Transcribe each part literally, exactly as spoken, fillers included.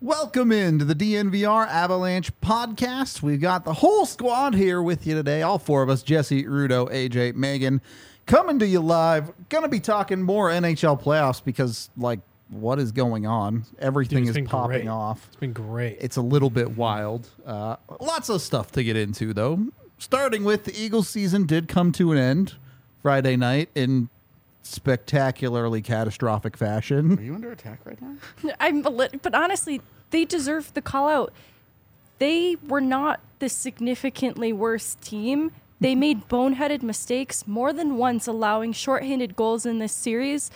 Welcome into the D N V R Avalanche podcast. We've got the whole squad here with you today. All four of us, Jesse, Rudo, A J, Megan, coming to you live. Going to be talking more N H L playoffs because, like, what is going on? Everything Dude, is popping great. off. It's been great. It's a little bit wild. Uh, lots of stuff to get into, though. Starting with the Eagles season did come to an end Friday night in spectacularly catastrophic fashion. Are you under attack right now? I'm a lit, but honestly, they deserve the call out. They were not the significantly worse team. They made boneheaded mistakes more than once, allowing shorthanded goals in this series.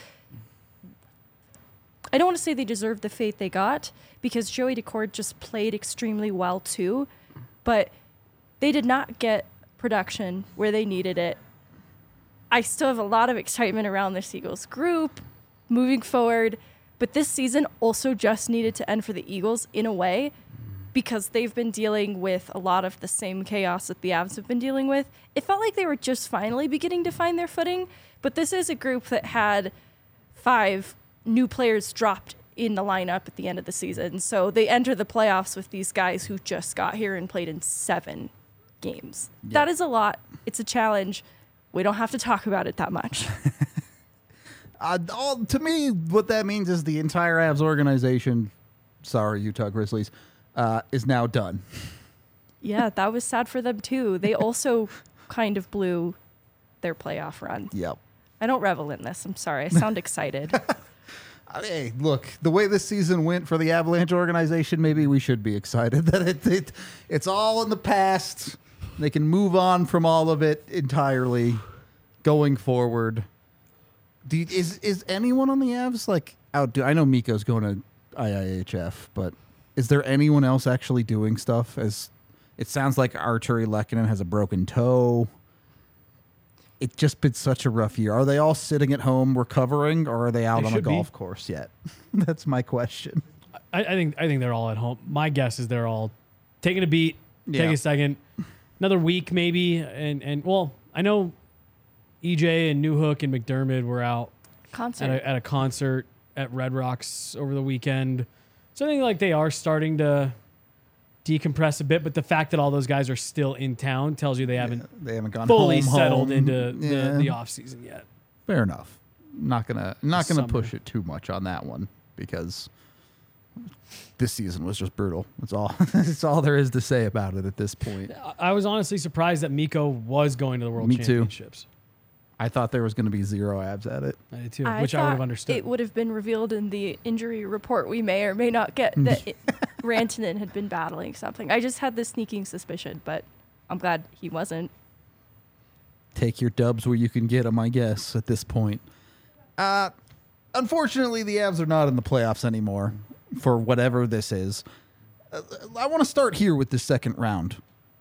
I don't want to say they deserve the fate they got because Joey Daccord just played extremely well too, but they did not get production where they needed it. I still have a lot of excitement around this Eagles group moving forward, but this season also just needed to end for the Eagles in a way because they've been dealing with a lot of the same chaos that the Avs have been dealing with. It felt like they were just finally beginning to find their footing, but this is a group that had five new players dropped in the lineup at the end of the season. So they enter the playoffs with these guys who just got here and played in seven games. Yep. That is a lot. It's a challenge. We don't have to talk about it that much. uh, all, to me, what that means is the entire Avs organization, sorry, Utah Grizzlies, uh, is now done. Yeah, that was sad for them too. They also kind of blew their playoff run. Yep. I don't revel in this. I'm sorry. I sound excited. Hey, look, the way this season went for the Avalanche organization, maybe we should be excited that it, it it's all in the past. They can move on from all of it entirely going forward. Do you, is is anyone on the Avs like out? I know Mikko's going to I I H F, but is there anyone else actually doing stuff? As it sounds like Arturi Lehkonen has a broken toe. It's just been such a rough year. Are they all sitting at home recovering, or are they out They on a should golf be. course yet? That's my question. I, I think I think they're all at home. My guess is they're all taking a beat, Yeah. take a second, another week maybe, and and well, I know E J and Newhook and McDermott were out Concert. at a, at a concert at Red Rocks over the weekend. So I think like they are starting to decompress a bit, but the fact that all those guys are still in town tells you they haven't Yeah, they haven't gone fully home, settled home. into Yeah. the, the off season yet. Fair enough. Not gonna not gonna Summer. push it too much on that one because this season was just brutal. That's all. That's all there is to say about it at this point. I- I was honestly surprised that Mikko was going to the World Me too. Championships. I thought there was going to be zero abs at it. I did too, I which I would have thought understood. It would have been revealed in the injury report we may or may not get that it, Rantanen had been battling something. I just had this sneaking suspicion, but I'm glad he wasn't. Take your dubs where you can get them, I guess, at this point. Uh, unfortunately, the Avs are not in the playoffs anymore for whatever this is. Uh, I want to start here with the second round.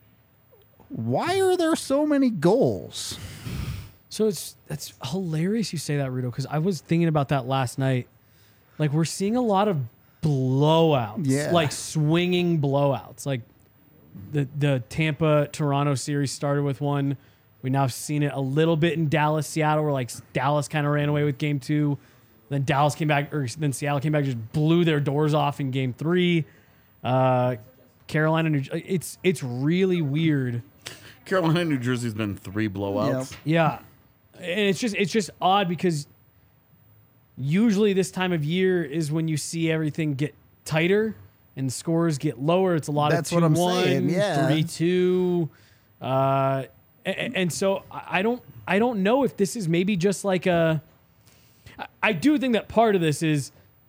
Why are there so many goals? So it's that's hilarious you say that, Rudo, because I was thinking about that last night. Like we're seeing a lot of blowouts, Yeah. like swinging blowouts. Like the the Tampa Toronto series started with one. We now have seen it a little bit in Dallas, Seattle, where like Dallas kind of ran away with game two. Then Dallas came back, or then Seattle came back, just blew their doors off in game three. Uh, Carolina, New, it's it's really weird. Carolina, New Jersey's been three blowouts. Yep. Yeah. And it's just it's just odd because usually this time of year is when you see everything get tighter and scores get lower. It's a lot That's of what two I'm one, saying, yeah. three two. Uh, and, and so I don't I don't know if this is maybe just like a I- I do think that part of this is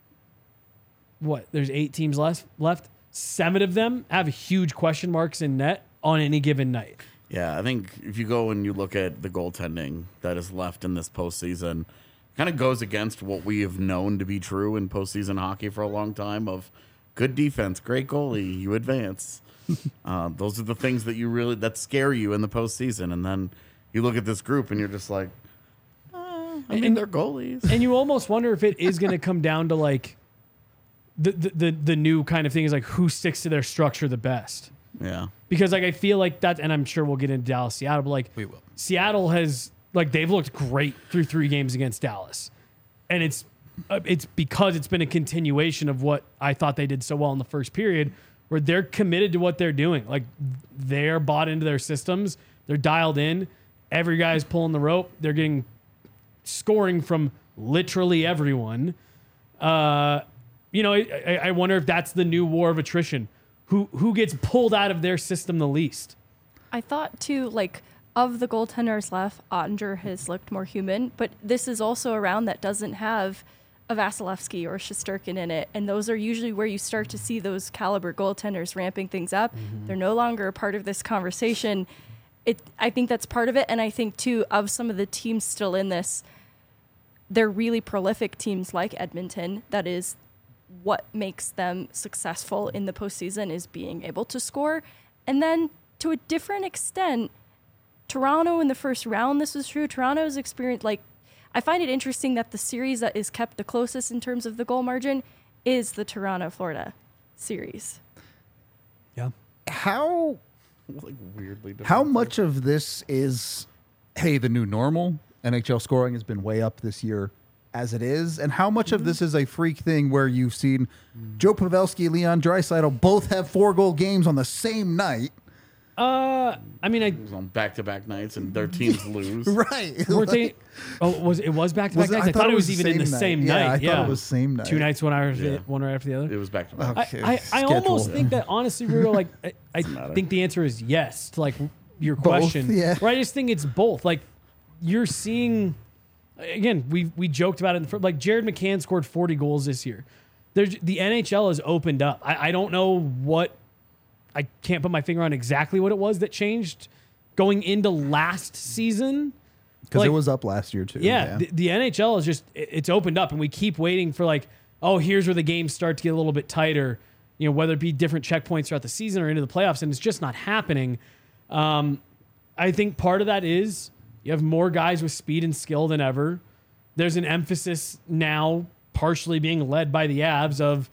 what, there's eight teams left left. Seven of them have huge question marks in net on any given night. Yeah, I think if you go and you look at the goaltending that is left in this postseason, kind of goes against what we have known to be true in postseason hockey for a long time of good defense, great goalie, you advance. uh, those are the things that you really, that scare you in the postseason. And then you look at this group and you're just like, uh, I mean, And- they're goalies. And you almost wonder if it is going to come down to like the, the the the new kind of thing is like who sticks to their structure the best. Yeah. Because like I feel like that, and I'm sure we'll get into Dallas, Seattle, but like We will. Seattle has like they've looked great through three games against Dallas, and it's uh, it's because it's been a continuation of what I thought they did so well in the first period, where they're committed to what they're doing. Like, they're bought into their systems. They're dialed in. Every guy's pulling the rope. They're getting scoring from literally everyone. Uh, you know, I, I wonder if that's the new war of attrition. Who who gets pulled out of their system the least? I thought too, like, of the goaltenders left, Ottinger has looked more human, but this is also a round that doesn't have a Vasilevsky or Shesterkin in it, and those are usually where you start to see those caliber goaltenders ramping things up. Mm-hmm. They're no longer a part of this conversation. It, I think that's part of it, and I think too, of some of the teams still in this, they're really prolific teams like Edmonton. That is what makes them successful in the postseason, is being able to score. And then to a different extent, Toronto in the first round, this was true. Toronto's experience, like, I find it interesting that the series that is kept the closest in terms of the goal margin is the Toronto-Florida series. Yeah. How Like weirdly different. how much of this is, hey, the new normal? N H L scoring has been way up this year as it is, and how much of this is a freak thing where you've seen Joe Pavelski, Leon Draisaitl both have four goal games on the same night? Uh, I mean, I It was on back-to-back nights, and their teams lose. Right. weren't they? Oh, was it was back to Was back it- nights? I, thought, it was, even in the night. same Yeah, night. I yeah, thought it was same night. Two nights, one hour, Yeah. one right after the other. It was back-to-back. Okay. I, I, I Schedule. almost think that honestly, Rudo, like I, I matter. think the answer is yes to like your Both, question. yeah. Or I just think it's both. Like, you're seeing, again, we we joked about it. In the, fir- like Jared McCann scored forty goals this year. There's the N H L has opened up. I, I don't know what, I can't put my finger on exactly what it was that changed going into last season. Because Like, it was up last year too. yeah, The, the N H L is just, it- it's opened up, and we keep waiting for like, oh, here's where the games start to get a little bit tighter, you know, whether it be different checkpoints throughout the season or into the playoffs, and it's just not happening. Um, I think part of that is you have more guys with speed and skill than ever. There's an emphasis now, partially being led by the Avs, of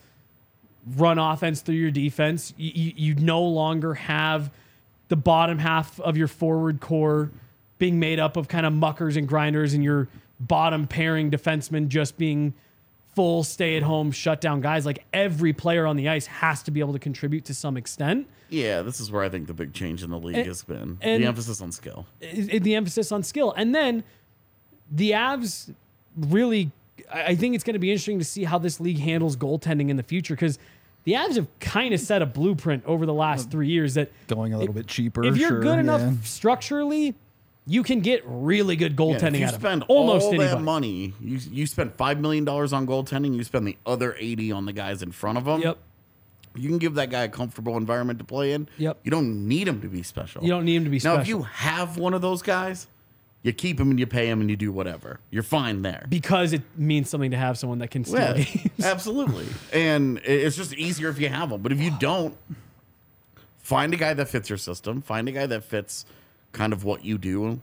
run offense through your defense. You, you, you no longer have the bottom half of your forward core being made up of kind of muckers and grinders, and your bottom pairing defensemen just being full stay-at-home shutdown guys. Like, every player on the ice has to be able to contribute to some extent. Yeah, this is where I think the big change in the league And- has been. and- the emphasis on skill. I- I- the emphasis on skill. And then the Avs really, I I think it's going to be interesting to see how this league handles goaltending in the future, because the Avs have kind of set a blueprint over the last three years that Going a little bit cheaper. if you're sure, good enough yeah. structurally, you can get really good Yeah, goaltending if you out of spend almost all anybody. that money, you you spend five million dollars on goaltending, you spend the other eighty on the guys in front of them. Yep. You can give that guy a comfortable environment to play in. Yep. You don't need him to be special. You don't need him to be Now, special. if you have one of those guys, you keep him and you pay him and you do whatever. You're fine there. because it means something to have someone that can steal Yeah, games. absolutely. And it- it's just easier if you have them. But if you don't, find a guy that fits your system. Find a guy that fits kind of what you do,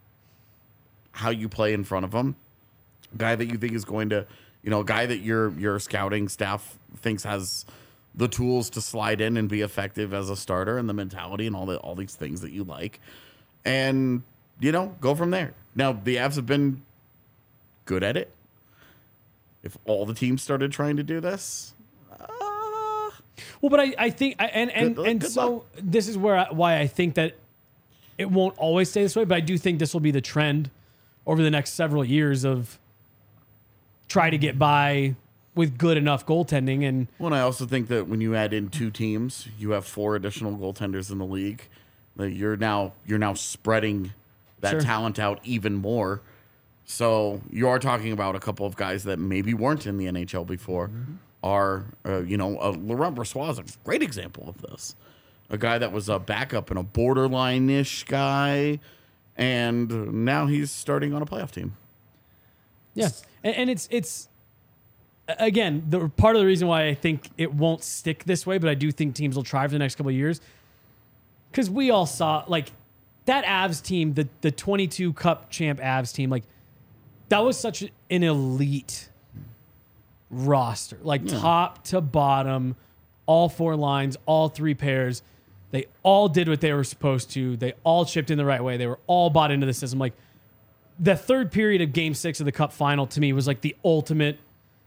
how you play in front of him. A guy that you think is going to, you know, a guy that your your scouting staff thinks has the tools to slide in and be effective as a starter, and the mentality and all the all these things that you like, and you know, go from there. Now the Avs have been good at it. If all the teams started trying to do this, uh, Well, but I, I think, I- and and Good- and good so luck. this is where I, why I think that it won't always stay this way, but I do think this will be the trend over the next several years of try to get by with good enough goaltending. And well, and I also think that when you add in two teams, you have four additional goaltenders in the league. That you're now you're now spreading that Sure. talent out even more. So you are talking about a couple of guys that maybe weren't in the N H L before. Are uh, you know uh, Laurent Brossoit is a great example of this. A guy that was a backup and a borderline-ish guy, and now he's starting on a playoff team. yeah, and, and it's it's again the part of the reason why I think it won't stick this way, but I do think teams will try for the next couple of years, because we all saw like that Avs team, the the twenty-two Cup champ Avs team, like that was such an elite roster, like top to bottom, all four lines, all three pairs. They all did what they were supposed to. They all chipped in the right way. They were all bought into the system. Like the third period of Game Six of the Cup final to me was like the ultimate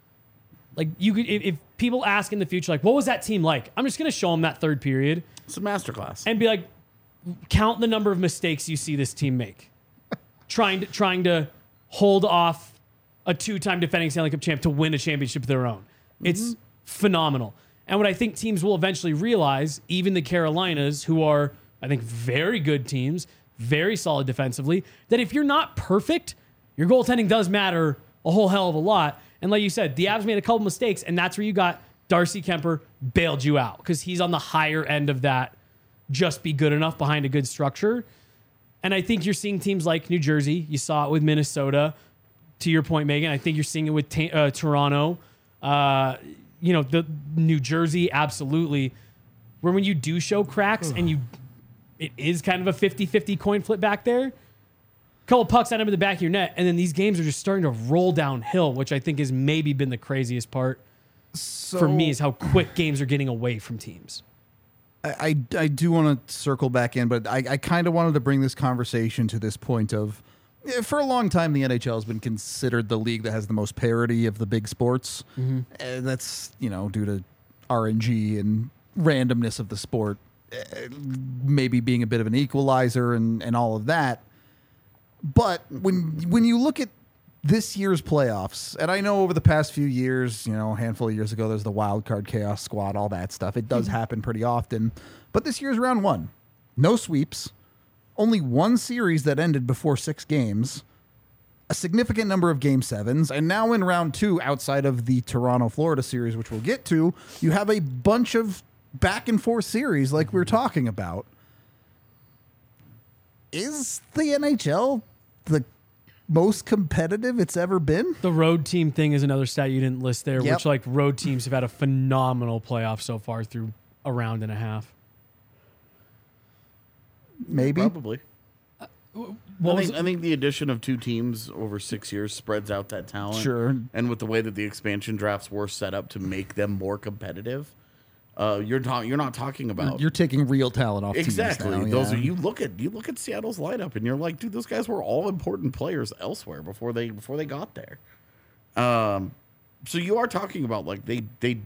Like you could, if, if people ask in the future, like, what was that team like? I'm just going to show them that third period It's a masterclass. and be like, count the number of mistakes you see this team make, trying to trying to hold off a two-time defending Stanley Cup champ to win a championship of their own. It's Mm-hmm. phenomenal. And what I think teams will eventually realize, even the Carolinas, who are, I think, very good teams, very solid defensively, that if you're not perfect, your goaltending does matter a whole hell of a lot. And like you said, the Avs made a couple mistakes, and that's where you got Darcy Kemper bailed you out because he's on the higher end of that. Just be good enough behind a good structure. And I think you're seeing teams like New Jersey. You saw it with Minnesota. To your point, Megan, I think you're seeing it with ta- uh, Toronto. Uh, you know, the New Jersey, absolutely. Where when you do show cracks and you, it is kind of a fifty-fifty coin flip back there. Couple pucks end up in the back of your net, and then these games are just starting to roll downhill, which I think has maybe been the craziest part So, for me is how quick games are getting away from teams. I, I, I do want to circle back in, but I, I kind of wanted to bring this conversation to this point of, eh, for a long time, the N H L has been considered the league that has the most parity of the big sports. And that's, you know, due to R N G and randomness of the sport, eh, maybe being a bit of an equalizer and, and all of that. But when when you look at this year's playoffs, and I know over the past few years, you know, a handful of years ago, there's the wild card chaos squad, all that stuff. It does happen pretty often. But this year's round one, no sweeps, only one series that ended before six games, a significant number of game sevens, and now in round two, outside of the Toronto, Florida series, which we'll get to, you have a bunch of back and forth series like we we're talking about. Is the N H L the most competitive it's ever been? The road team thing is another stat you didn't list there, Yep. which like road teams have had a phenomenal playoff so far through a round and a half. Maybe. Probably. What I was think, I think the addition of two teams over six years spreads out that talent. Sure. And with the way that the expansion drafts were set up to make them more competitive, uh, you're talking. You're not talking about You're taking real talent off exactly. teams now, Those yeah. are you look at you look at Seattle's lineup and you're like, dude, those guys were all important players elsewhere before they before they got there. Um, so you are talking about like they they.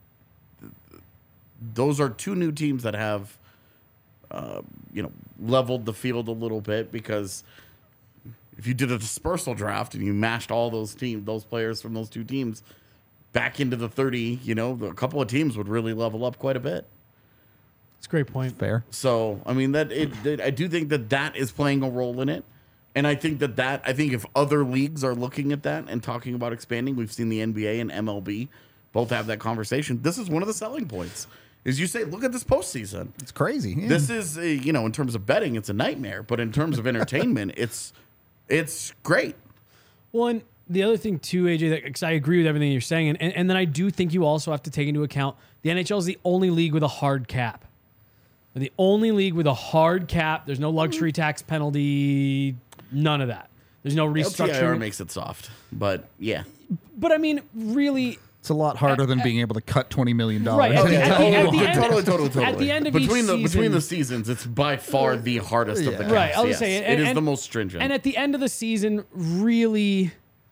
Those are two new teams that have, uh, you know, leveled the field a little bit because if you did a dispersal draft and you mashed all those teams, those players from those two teams back into the thirty, you know, a couple of teams would really level up quite a bit. It's a great point. Fair. So, I mean, that it, it, I do think that that is playing a role in it. And I think that that, I think if other leagues are looking at that and talking about expanding, we've seen the N B A and M L B both have that conversation. This is one of the selling points. Is you say, look at this postseason. It's crazy. Yeah. This is, uh, you know, in terms of betting, it's a nightmare. But in terms of entertainment, it's it's great. Well, and the other thing too, A J, that because I agree with everything you're saying, and, and and then I do think you also have to take into account the N H L is the only league with a hard cap. They're the only league with a hard cap. There's no luxury tax penalty, none of that. There's no L T I R restructuring. makes it soft, but yeah. But I mean, really, It's a lot harder than being able to cut twenty million dollars. Right, at the- at the- at the end- totally, totally, totally. at the end of between each the between season- the seasons, it's by far the hardest of the Yeah. caps. Right, I was yes. saying, it and- is and- the most stringent. and at the end of the season, really,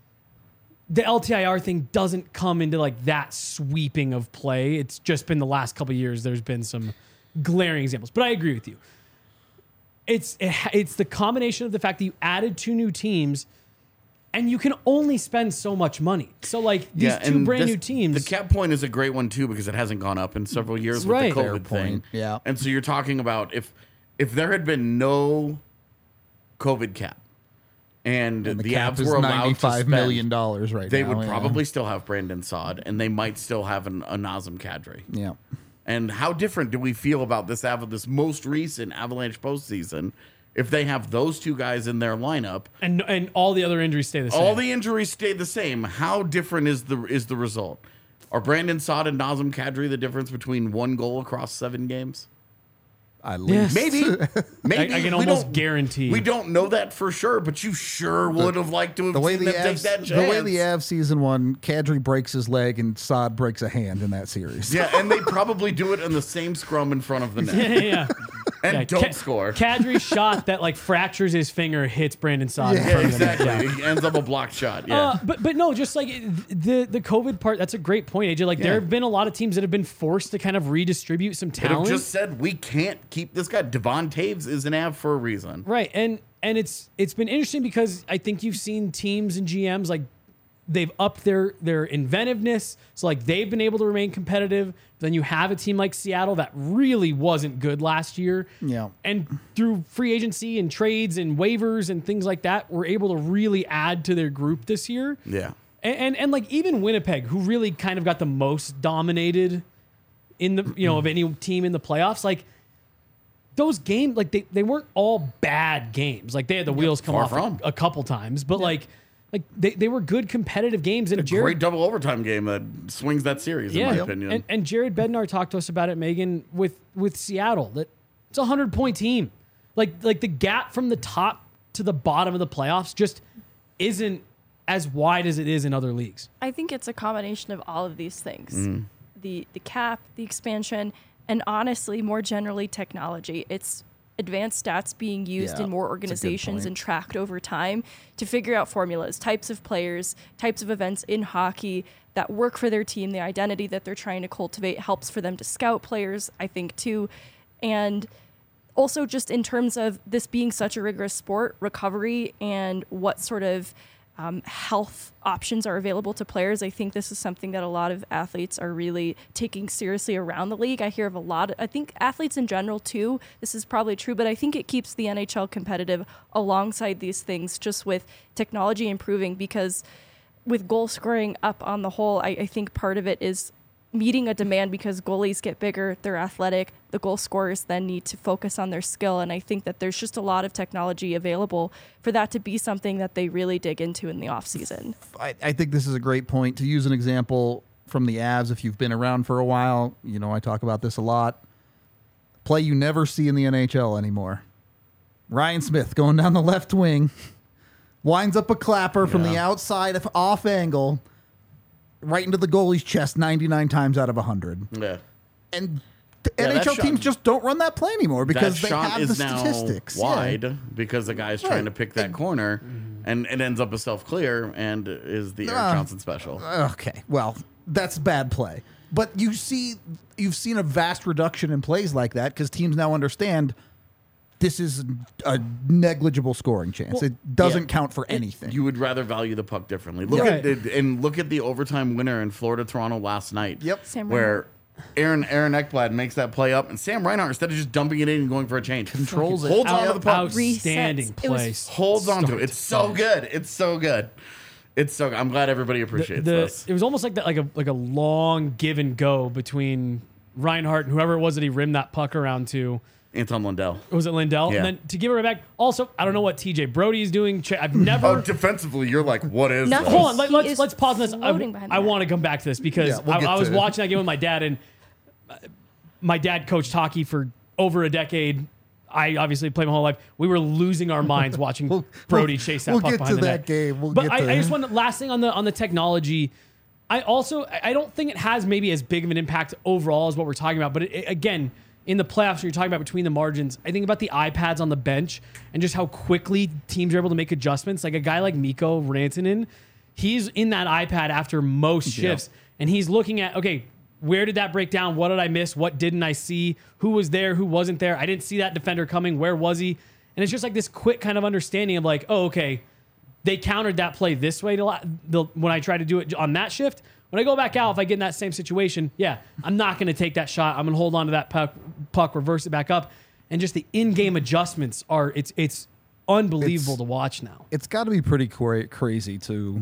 the L T I R thing doesn't come into like that sweeping of play. It's just been the last couple of years. There's been some glaring examples, but I agree with you. It's it, it's the combination of the fact that you added two new teams, and you can only spend so much money. So like these yeah, two and brand this- new teams, The cap point is a great one too because it hasn't gone up in several years Right. with the Fair COVID thing. point, yeah. And so you're talking about if if there had been no COVID cap and, And the, the cap Avs is were allowed to ninety-five spend, million dollars right they now. would yeah. probably still have Brandon Saad and they might still have an, a Nazem Kadri. Yeah. And how different do we feel about this Av- this most recent Avalanche postseason if they have those two guys in their lineup? and and all the other injuries stay the same. All the injuries stay the same. How different is the is the result? Are Brandon Saad and Nazem Kadri the difference between one goal across seven games? At least. Maybe. Maybe. I, I can We almost don't- guarantee. We don't know that for sure, but you sure would have liked to have The way seen the them take Avs, that the chance. way the Avs season one, Kadri breaks his leg and Saad breaks a hand in that series. Yeah, and they probably do it in the same scrum in front of the net. yeah, yeah. and Yeah, don't Ka- score. Kadri's shot that like fractures his finger hits Brandon Saad. in Yeah, front of him. exactly. Yeah. It ends up a blocked shot. Yeah. Uh, but but no, just like the the COVID part, that's a great point, A J. Like Yeah. there have been a lot of teams that have been forced to kind of redistribute some They have talent. just said we can't keep this guy. Devon Taves is an Av for a reason. Right, and and it's it's been interesting because I think you've seen teams and G Ms like they've upped their their inventiveness, so like they've been able to remain competitive. Then you have a team like Seattle that really wasn't good last year, Yeah. and through free agency and trades and waivers and things like that, were able to really add to their group this year. Yeah. And, and and like even Winnipeg, who really kind of got the most dominated in the you know of any team in the playoffs, like those games, like they, they weren't all bad games. Like they had the wheels come far off from. a, a couple times, but like like they, they were good competitive games. And A Jared, great double overtime game that swings that series, in my opinion. and, and Jared Bednar talked to us about it, Megan, with with Seattle. That it's a hundred point team. Like like the gap from the top to the bottom of the playoffs just isn't as wide as it is in other leagues. I think it's a combination of all of these things. Mm. The the cap, the expansion, and honestly, more generally, technology. It's advanced stats being used Yeah, in more that's a good organizations point. and tracked over time to figure out formulas, types of players, types of events in hockey that work for their team, the identity that they're trying to cultivate helps for them to scout players, I think, too. And also just in terms of this being such a rigorous sport, recovery and what sort of um, health options are available to players. I think this is something that a lot of athletes are really taking seriously around the league. I hear of a lot of, I think athletes in general too, this is probably true, but I think it keeps the N H L competitive alongside these things, just with technology improving, because with goal scoring up on the whole, I, I think part of it is meeting a demand because goalies get bigger, they're athletic, the goal scorers then need to focus on their skill. And I think that there's just a lot of technology available for that to be something that they really dig into in the offseason. I, I think this is a great point. To use an example from the Avs, if you've been around for a while, you know I talk about this a lot. Play you never see in the N H L anymore. Ryan Smith going down the left wing, winds up a clapper from the Yeah. outside of off angle, right into the goalie's chest ninety-nine times out of one hundred. Yeah. And the Yeah, that N H L shot- teams just don't run that play anymore because that they shot have is the now statistics. Yeah. wide because the guy's trying to Right. pick that corner, and it ends up a self clear and is the Eric Ah. Johnson special. Okay, well, that's bad play. But you see, you've seen a vast reduction in plays like that because teams now understand this is a negligible scoring chance. Well, it doesn't yeah. count for anything. You would rather value the puck differently. Look Yeah. at it, and look at the overtime winner in Florida Toronto last night. Yep. Sam where Aaron Aaron Ekblad makes that play up, and Sam Reinhart, instead of just dumping it in and going for a change, Controls it. holds on to Out- the puck, outstanding Resets. It was- place. holds on to Start it. It's so finish. good. It's so good. It's so good. I'm glad everybody The- appreciates the- this. It was almost like that, like a like a long give and go between Reinhardt and whoever it was that he rimmed that puck around to. Anton Lundell. Was it Lindell? Yeah. And then to give it right back. Also, I don't know what T J Brody is doing. Ch- I've never. Oh, defensively, you're like, what is Nothing. this? Hold on, let, He let's is let's pause on this. I, floating behind I the want to come back to this because Yeah, we'll I, get I was to it. watching that game with my dad, and uh, my dad coached hockey for over a decade. I obviously played my whole life. We were losing our minds watching We'll- Brody we'll- chase that we'll puck get behind to the that net. game. We'll but get I, to I just want last thing on the on the technology. I also I don't think it has maybe as big of an impact overall as what we're talking about. But it, it- again, in the playoffs, when you're talking about between the margins, I think about the iPads on the bench and just how quickly teams are able to make adjustments. Like a guy like Mikko Rantanen, he's in that iPad after most shifts, and he's looking at, okay, where did that break down? What did I miss? What didn't I see? Who was there? Who wasn't there? I didn't see that defender coming. Where was he? And it's just like this quick kind of understanding of like, oh, okay, they countered that play this way to la- the, when I try to do it on that shift. When I go back out, if I get in that same situation, yeah, I'm not going to take that shot. I'm going to hold on to that puck, puck, reverse it back up, and just the in-game adjustments are it's it's unbelievable It's- to watch now. it's got to be pretty cra- crazy to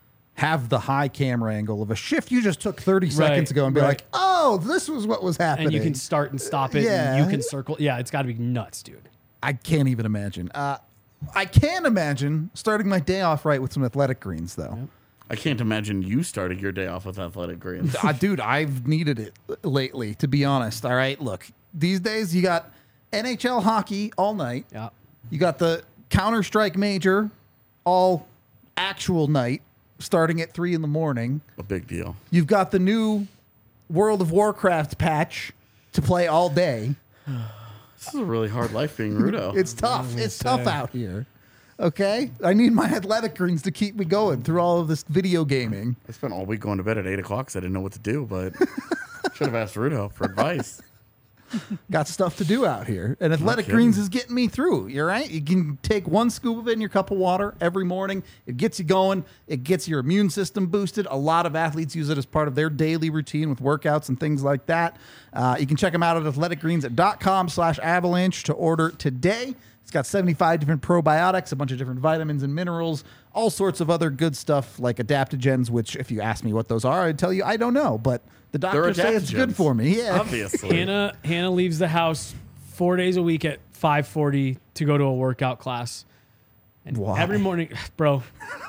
have the high camera angle of a shift you just took thirty seconds ago and be right. like, oh, this was what was happening. And you can start and stop it. Yeah. And you can circle. Yeah, it's got to be nuts, dude. I can't even imagine. Uh, I can imagine starting my day off right with some athletic greens, though. I can't imagine you starting your day off with athletic greens. uh, dude, I've needed it lately, to be honest. All right, look, these days you got N H L hockey all night. Yeah. You got the Counter Strike Major all actual night, starting at three in the morning. A big deal. You've got the new World of Warcraft patch to play all day. This is a really hard life being Rudo. It's tough. It's say. tough out here. Okay, I need my athletic greens to keep me going through all of this video gaming. I spent all week going to bed at eight o'clock because I didn't know what to do, but should have asked Rudo for advice. Got stuff to do out here, and athletic kidding. greens is getting me through. You're right. You can take one scoop of it in your cup of water every morning. It gets you going. It gets your immune system boosted. A lot of athletes use it as part of their daily routine with workouts and things like that. Uh, you can check them out at athletic greens dot com slash avalanche to order today. It's got seventy-five different probiotics, a bunch of different vitamins and minerals, all sorts of other good stuff like adaptogens, which if you ask me what those are, I'd tell you I don't know, but the doctors say it's good adaptogens. for me. Yeah. Obviously. Hannah Hannah leaves the house four days a week at five forty to go to a workout class. And Why? every morning, bro.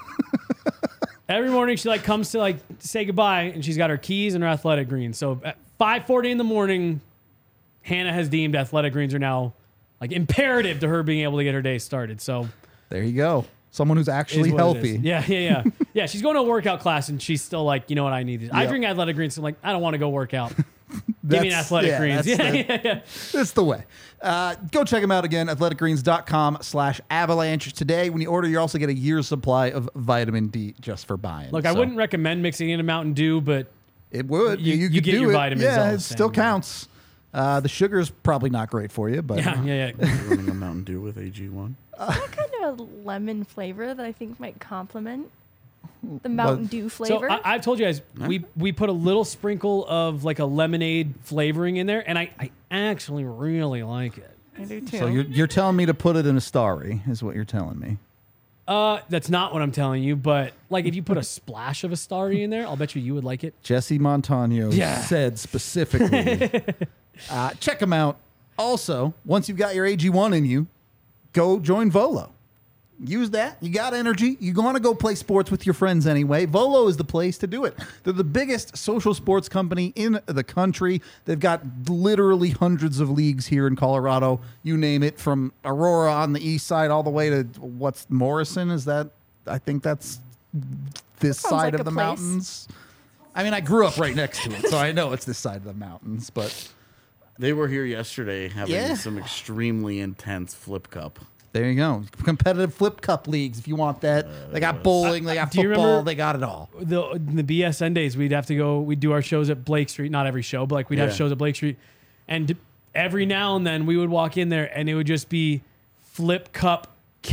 Every morning she like comes to like say goodbye and she's got her keys and her athletic greens. So at five forty in the morning, Hannah has deemed athletic greens are now like imperative to her being able to get her day started. So There you go. Someone who's is actually what it healthy. is. Yeah, yeah, yeah. Yeah, she's going to a workout class and she's still like, you know what, I need these. I Yep. drink athletic greens, so I'm like, I don't want to go work out. Give me an That's- athletic yeah, greens. that's Yeah, the- yeah, yeah. That's the way. Uh, go check them out again, athletic greens dot com slash avalanche. Today, when you order, you also get a year's supply of vitamin D just for buying. Look, I So wouldn't recommend mixing in a Mountain Dew, but It would. You- You, you could get do your it. vitamins all Yeah, the it still same. counts. Uh, the sugar's probably not great for you, but yeah, yeah, yeah. Running a Mountain Dew with A G one. kind of a lemon flavor that I think might complement the Mountain Dew So flavor. I, I've told you guys, we we put a little sprinkle of like a lemonade flavoring in there, and I, I actually really like it. I do too. so you're, you're telling me to put it in a starry, is what you're telling me. Uh, that's not what I'm telling you, but like if you put a splash of a starry in there, I'll bet you you would like it. Jesse Montano Yeah. said specifically. uh, check them out. Also, once you've got your A G one in you, go join Volo. Use that. You got energy. You want to go play sports with your friends anyway. Volo is the place to do it. They're the biggest social sports company in the country. They've got literally hundreds of leagues here in Colorado. You name it, from Aurora on the east side all the way to what's Morrison? Is that? I think that's this Sounds side like of a the place. mountains. I mean, I grew up right next to it, so I know it's this side of the mountains. But They were here yesterday having Yeah. some extremely intense flip cup. there you go. Competitive flip cup leagues, if you want that. They got bowling, they got Do you football, remember- they got it all. The the B S N days, we'd have to go. We'd do our shows at Blake Street. Not every show, but like we'd have Yeah. shows at Blake Street, and every now and then we would walk in there, and it would just be flip cup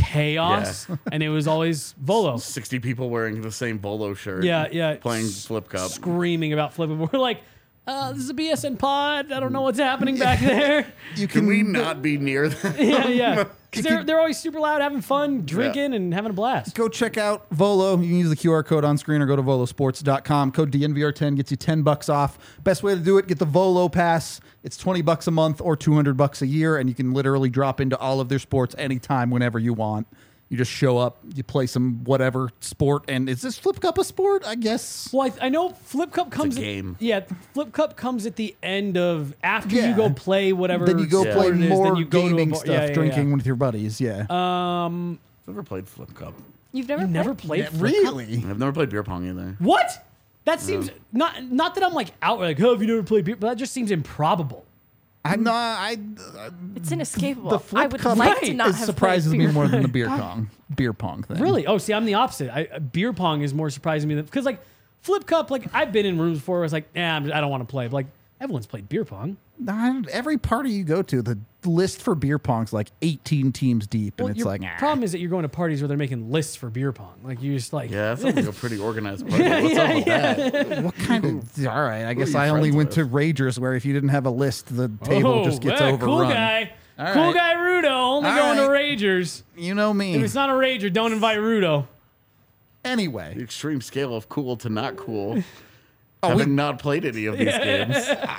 chaos, and it was always Volo sixty people wearing the same Bolo shirt. Yeah, yeah. Playing flip cup. screaming about flipping. We're like, uh, this is a B S N pod. I don't know what's happening back there. You Can we not be near that? yeah, yeah. You Because they're, could- they're always super loud, having fun, drinking, and having a blast. Go check out Volo. You can use the Q R code on screen or go to volo sports dot com. Code D N V R ten gets you ten bucks off. Best way to do it, get the Volo Pass. It's twenty bucks a month or two hundred bucks a year, and you can literally drop into all of their sports anytime, whenever you want. You just show up, you play some whatever sport, and is this Flip Cup a sport? I guess. Well, I, I know Flip Cup comes. at- game. yeah, Flip Cup comes at the end of after Yeah. you go play whatever. Then you go Yeah. play sport it is, more then you go to a gaming bar- stuff, yeah, yeah, drinking yeah. with your buddies. Yeah. Um, I've never played flip cup. You've never you never played? played Flip Cup? really? I've never played beer pong either. What? That seems not not that I'm like out like, oh, have you never played beer? But that just seems improbable. I'm not. I. It's inescapable. The Flip I would Cup like to Right. not it have surprises played me beer more than pong. the beer pong beer pong thing. Really? Oh, see, I'm the opposite. I, uh, beer pong is more surprising to me because like Flip Cup, like I've been in rooms before where it's like, nah, I'm, I don't want to play. But like everyone's played beer pong. Nah, every party you go to, the list for beer pong's like eighteen teams deep, and Well, it's your like, ah. problem is that you're going to parties where they're making lists for beer pong. Like you just like, Yeah, that sounds like a pretty organized party. What's up with that? what kind of? All right, I guess you I only friends went with? to Ragers where if you didn't have a list, the table oh, just gets yeah, overrun. cool guy, All cool right. guy, Rudo. Only All going to right. Ragers. You know If me. it's not a Rager, don't invite Rudo. The Anyway, extreme scale of cool to not cool. Oh, having we- not played any of these games.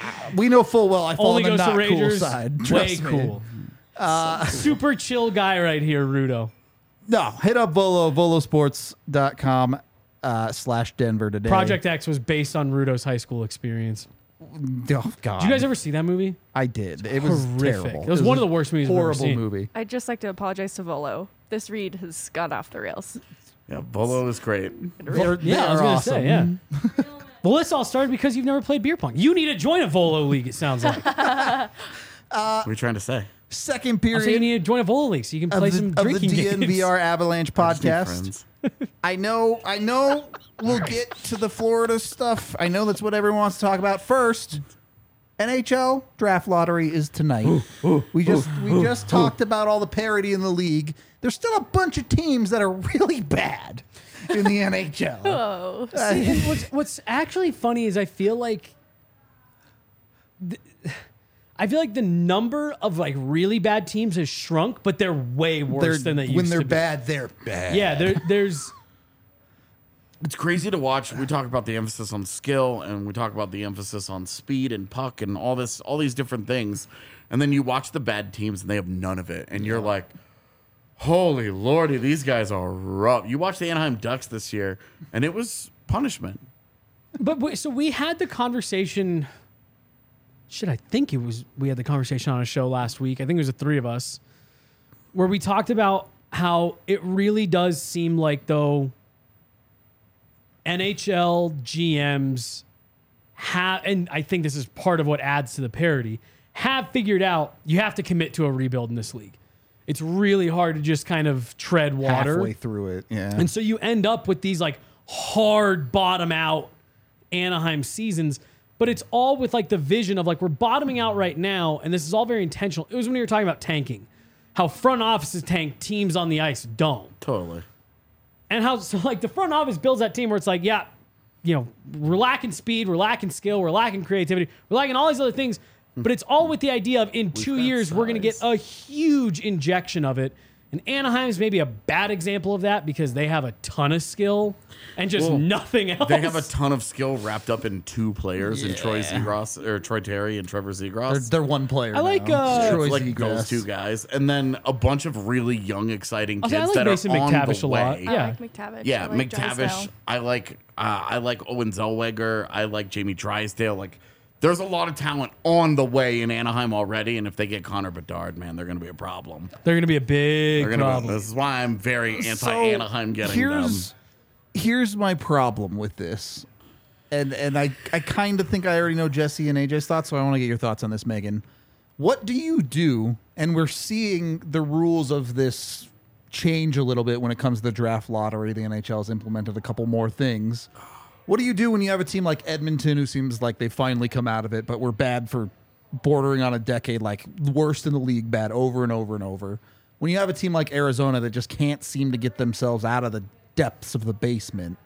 we know full well I fall Only on the goes to not cool Ragers. side. Way Trust me. cool. Super chill guy right here, Rudo. No, hit up Volo, volo sports dot com uh, slash Denver today. Project X was based on Rudo's high school experience. Oh God, Did you guys ever see that movie? I did. It was Horrific. terrible. It was one of the worst movies I've ever Horrible seen. movie. I'd just like to apologize to Volo. This read has gone off the rails. Yeah, Bolo is great. They're, Yeah, I was they're gonna awesome. say, yeah. Well, this all started because you've never played beer pong. You need to join a Volo league. It sounds like. What are you trying to say? second So you period need to join a bowling league so you can of play the, some of the drinking D N V games. R Avalanche I just need podcast. friends. I know, I know we'll get to the Florida stuff. I know that's what everyone wants to talk about. First, N H L draft lottery is tonight. we just we just talked about all the parity in the league. There's still a bunch of teams that are really bad in the N H L. Oh, See, and what's, what's actually funny is I feel like th- I feel like the number of like really bad teams has shrunk, but they're way worse They're- than they used when they're to be. bad, they're bad. Yeah, there, there's It's crazy to watch. We talk about the emphasis on skill, and we talk about the emphasis on speed and puck and all this, all these different things. And then you watch the bad teams, and they have none of it, and you're like, "Holy lordy, these guys are rough." You watch the Anaheim Ducks this year, and it was punishment. But wait, so we had the conversation. Shit, I think it was we had the conversation on a show last week. I think it was the three of us, where we talked about how it really does seem like though N H L G Ms have, and I think this is part of what adds to the parity, have figured out you have to commit to a rebuild in this league. It's really hard to just kind of tread water. halfway through it. Yeah, And so you end up with these like hard bottom out Anaheim seasons, but it's all with like the vision of like we're bottoming out right now, and this is all very intentional. It was when you were talking about tanking, how front offices tank, teams on the ice don't. Totally. And how so like the front office builds that team where it's like, yeah, you know, we're lacking speed, we're lacking skill, we're lacking creativity, we're lacking all these other things, but it's all with the idea of in two got years we're going to get size. a huge injection of it. And Anaheim's maybe a bad example of that because they have a ton of skill and just Well, nothing else. They have a ton of skill wrapped up in two players, in Troy Zegras or Troy Terry and Trevor they're, Zegras. they're one player. I like, now. uh, It's Troy It's like Zegras. those two guys, and then a bunch of really young, exciting I kids like that Mason are on McTavish the a lot. way. I Yeah. like McTavish. Yeah, I like McTavish. Drysdale. I like. Uh, I like Owen Zellweger. I like Jamie Drysdale. Like, there's a lot of talent on the way in Anaheim already, and if they get Connor Bedard, man, they're going to be a problem. They're going to be a big They're gonna problem. Be, this is why I'm very So, anti-Anaheim getting here's, them. Here's my problem with this. And and I, I kind of think I already know Jesse and A J's thoughts, so I want to get your thoughts on this, Megan. What do you do? And we're seeing the rules of this change a little bit when it comes to the draft lottery. The N H L has implemented a couple more things. What do you do when you have a team like Edmonton who seems like they finally come out of it, but we're bad for bordering on a decade, like worst in the league, bad over and over and over? When you have a team like Arizona that just can't seem to get themselves out of the depths of the basement,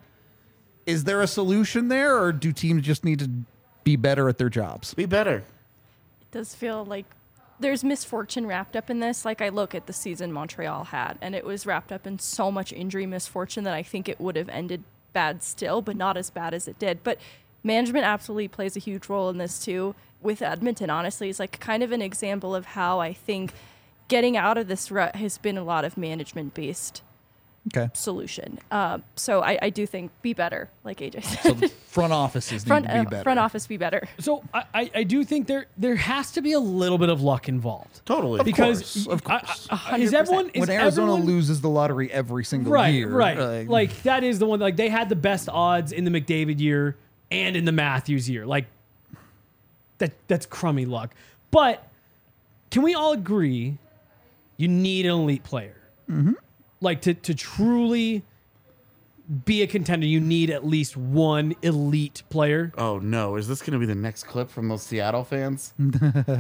is there a solution there, or do teams just need to be better at their jobs? Be better. It does feel like there's misfortune wrapped up in this. Like I look at the season Montreal had, and it was wrapped up in so much injury misfortune that I think it would have ended bad still, but not as bad as it did. But management absolutely plays a huge role in this too. With Edmonton, honestly, it's like kind of an example of how I think getting out of this rut has been a lot of management based Okay. solution. Um, so I, I do think be better, like A J said. So the front offices front need to be uh, better. front office be better. So I, I, I do think there there has to be a little bit of luck involved. Totally. Because course, of I- course. I- hundred is percent. everyone is when Arizona everyone, loses the lottery every single right, year, right, uh, like that is the one. Like they had the best odds in the McDavid year and in the Matthews year. Like that that's crummy luck. But can we all agree you need an elite player? Mm-hmm. Like to to truly be a contender, you need at least one elite player. Oh no! Is this going to be the next clip from those Seattle fans? Oh,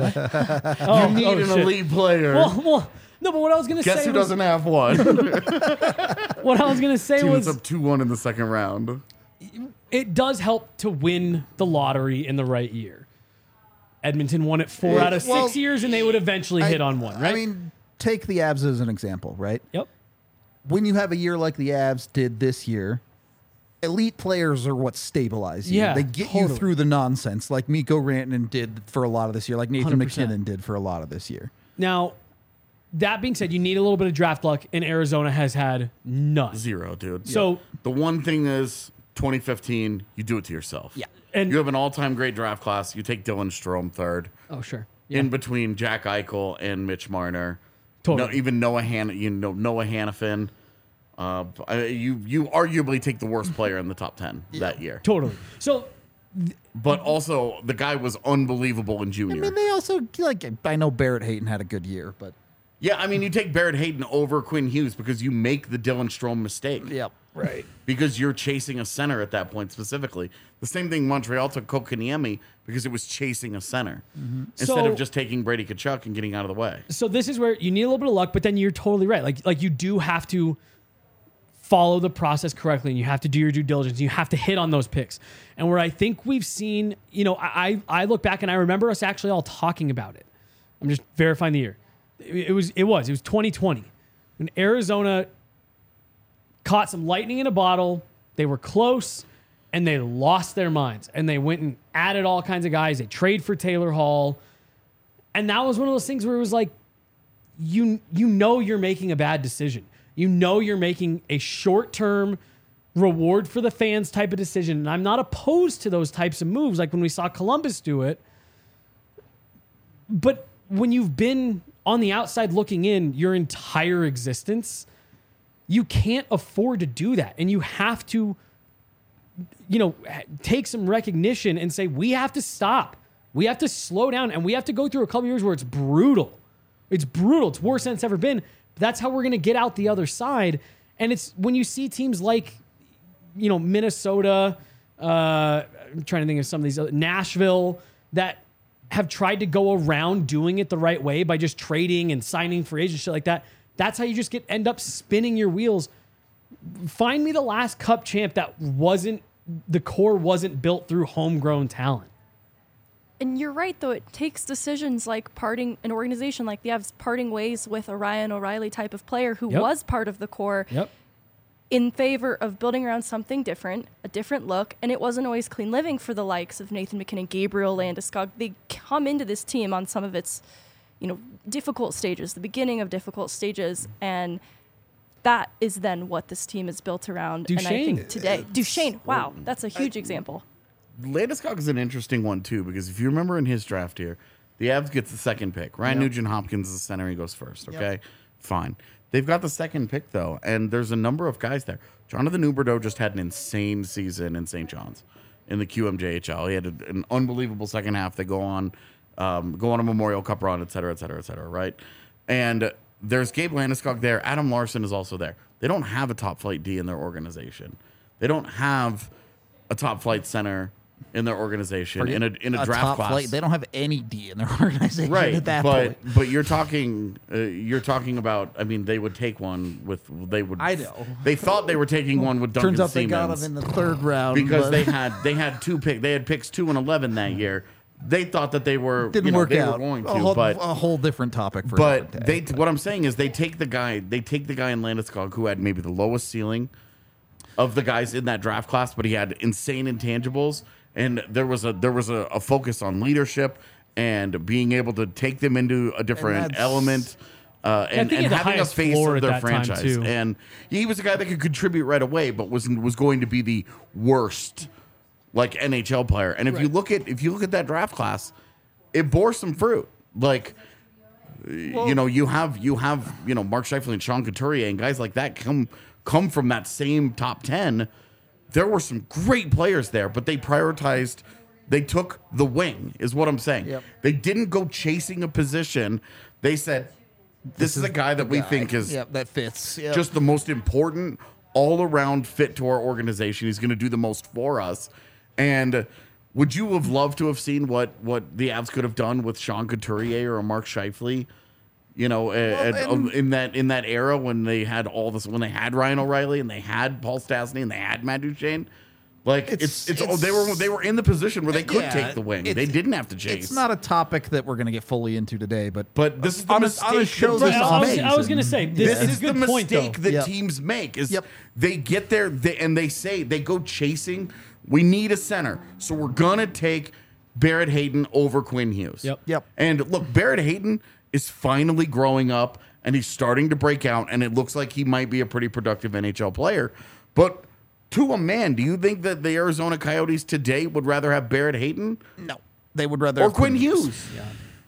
You need oh, an shit. elite player. Well, well, no, but what I was gonna Guess say who was, doesn't have one? what I was gonna say Team was that's up two one in the second round. it does help to win the lottery in the right year. Edmonton won it four Yeah, out of well, six years, and they would eventually I- hit on one, right? I mean, take the Avs as an example, right? yep. When you have a year like the Avs did this year, elite players are what stabilize you. Yeah, they get you totally. through the nonsense, like Mikko Rantanen did for a lot of this year, like Nathan one hundred percent. McKinnon did for a lot of this year. Now, that being said, you need a little bit of draft luck, and Arizona has had none. Zero, dude. So- the one thing is twenty fifteen, you do it to yourself. Yeah, and You have an all-time great draft class. You take Dylan Strome third. oh sure, yeah. In between Jack Eichel and Mitch Marner. Totally. No, even Noah Han, you know Noah Hannafin. Uh, I- you you arguably take the worst player in the top ten that year. Totally. So But also, the guy was unbelievable in I junior. mean, they also like. I know Barrett Hayton had a good year, but yeah, I mean, you take Barrett Hayton over Quinn Hughes because you make the Dylan Strome mistake. yep, right. Because you're chasing a center at that point specifically. The same thing Montreal took Kokaniemi because it was chasing a center instead So- of just taking Brady Tkachuk and getting out of the way. So this is where you need a little bit of luck, but then you're totally right. Like like you do have to follow the process correctly, and you have to do your due diligence. You have to hit on those picks. And where I think we've seen, you know, I I look back and I remember us actually all talking about it. I'm just verifying the year. It, it was it was it was twenty twenty when Arizona caught some lightning in a bottle. They were close, and they lost their minds. And they went and added all kinds of guys. They trade for Taylor Hall. And that was one of those things where it was like, you you know you're making a bad decision. You know you're making a short-term reward for the fans type of decision. And I'm not opposed to those types of moves, like when we saw Columbus do it. But when you've been on the outside looking in your entire existence, you can't afford to do that. And you have to, you know, take some recognition and say, we have to stop. We have to slow down, and we have to go through a couple years where it's brutal. It's brutal. It's worse than it's ever been. But that's how we're going to get out the other side. And it's when you see teams like, you know, Minnesota, uh, I'm trying to think of some of these, other, Nashville, that have tried to go around doing it the right way by just trading and signing free agents, shit like that. That's how you just get end up spinning your wheels. Find me the last Cup champ that wasn't, the core wasn't built through homegrown talent. And you're right, though. It takes decisions like parting an organization like the Avs parting ways with a Ryan O'Reilly type of player who Yep. was part of the core Yep. in favor of building around something different, a different look. And it wasn't always clean living for the likes of Nathan McKinnon, Gabriel Landeskog. They come into this team on some of its, you know, difficult stages, the beginning of difficult stages. And that is then what this team is built around. And I Duchesne. think today, Duchesne, wow, that's a huge example. Landeskog is an interesting one, too, because if you remember in his draft here, the Avs gets the second pick. Ryan Yep. Nugent-Hopkins is the center. He goes first, okay? Fine. They've got the second pick, though, and there's a number of guys there. Jonathan Huberdeau just had an insane season in Saint John's in the Q M J H L. He had a, an unbelievable second half. They go on, um, go on a Memorial Cup run, et cetera, et cetera, et cetera, right? And there's Gabe Landeskog there. Adam Larson is also there. They don't have a top-flight D in their organization. They don't have a top-flight center in their organization in a in a, a draft top class. flight. They don't have any D in their organization Right, at that but point. but you're talking uh, you're talking about. I mean, they would take one with they would. I know. They thought they were taking one with Duncan Turns out they Siemens got him in the third round because but they had they had two pick they had picks two and eleven that year. They thought that they were didn't you know, work they out. were going to, a, whole, but a whole different topic for but another they day. what I'm saying is they take the guy they take the guy in Landeskog who had maybe the lowest ceiling of the guys in that draft class, but he had insane intangibles. And there was a there was a, a focus on leadership and being able to take them into a different that's- element, uh, and, think he and had the having a highest face floor of at their that time, franchise. too. And he was a guy that could contribute right away, but was was going to be the worst like N H L player. And if you look at if you look at that draft class, it bore some fruit. Like you know, you have you have you know Mark Scheifele and Sean Couturier and guys like that come come from that same top ten. There were some great players there, but they prioritized. They took the wing, is what I'm saying. Yep. They didn't go chasing a position. They said, "This, is a guy that we guy. think is Yep, that fits. Yep. just the most important all-around fit to our organization. He's going to do the most for us." And would you have loved to have seen what what the Avs could have done with Sean Couturier or a Mark Scheifele? You know, at, at- and- in that in that era when they had all this, when they had Ryan O'Reilly and they had Paul Stastny and they had Matt Duchene, like it's It's- it's, it's- they were they were in the position where they could Yeah, take the wing. it's- They didn't have to chase. It's not a topic that we're going to get fully into today, but But this is the on a, mistake on a show that- this Right, I was, amazing. I was going to say, this, This it's is a good the point, mistake though. that Yep. teams make is Yep. they get there they, and they say they go chasing. We need a center, so we're gonna take Barrett Hayton over Quinn Hughes. Yep. Yep. And look, Barrett Hayton is finally growing up and he's starting to break out, and it looks like he might be a pretty productive N H L player. But to a man, do you think that the Arizona Coyotes today would rather have Barrett Hayton No, they would rather or have Quinn Hughes? Yeah,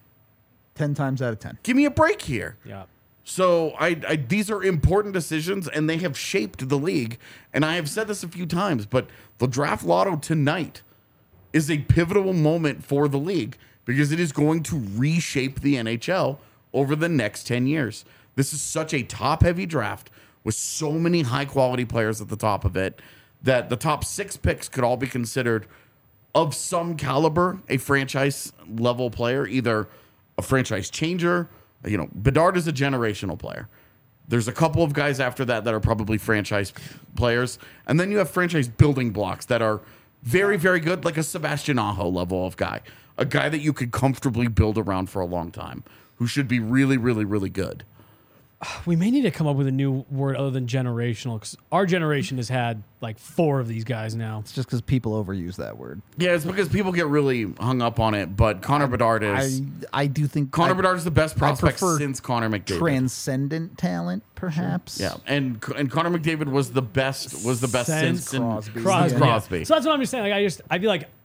ten times out of ten. Give me a break here. yeah. So I, I these are important decisions, and they have shaped the league. And I have said this a few times, but the draft lotto tonight is a pivotal moment for the league because it is going to reshape the N H L over the next ten years. This is such a top-heavy draft with so many high-quality players at the top of it that the top six picks could all be considered of some caliber, a franchise-level player, either a franchise changer. You know, Bedard is a generational player. There's a couple of guys after that that are probably franchise players. And then you have franchise building blocks that are very, very good, like a Sebastian Aho level of guy. A guy that you could comfortably build around for a long time, who should be really, really, really good. We may need to come up with a new word other than generational, because our generation has had like four of these guys now. It's just because people overuse that word. Yeah, it's because people get really hung up on it, but Connor Bedard is... I, I do think... Connor I, Bedard is the best prospect prefer since Connor McDavid. Transcendent talent, perhaps. Yeah, and and Connor McDavid was the best was the best Since since Crosby. Crosby. Since Crosby. Yeah. So that's what I'm just saying. Like I just I feel like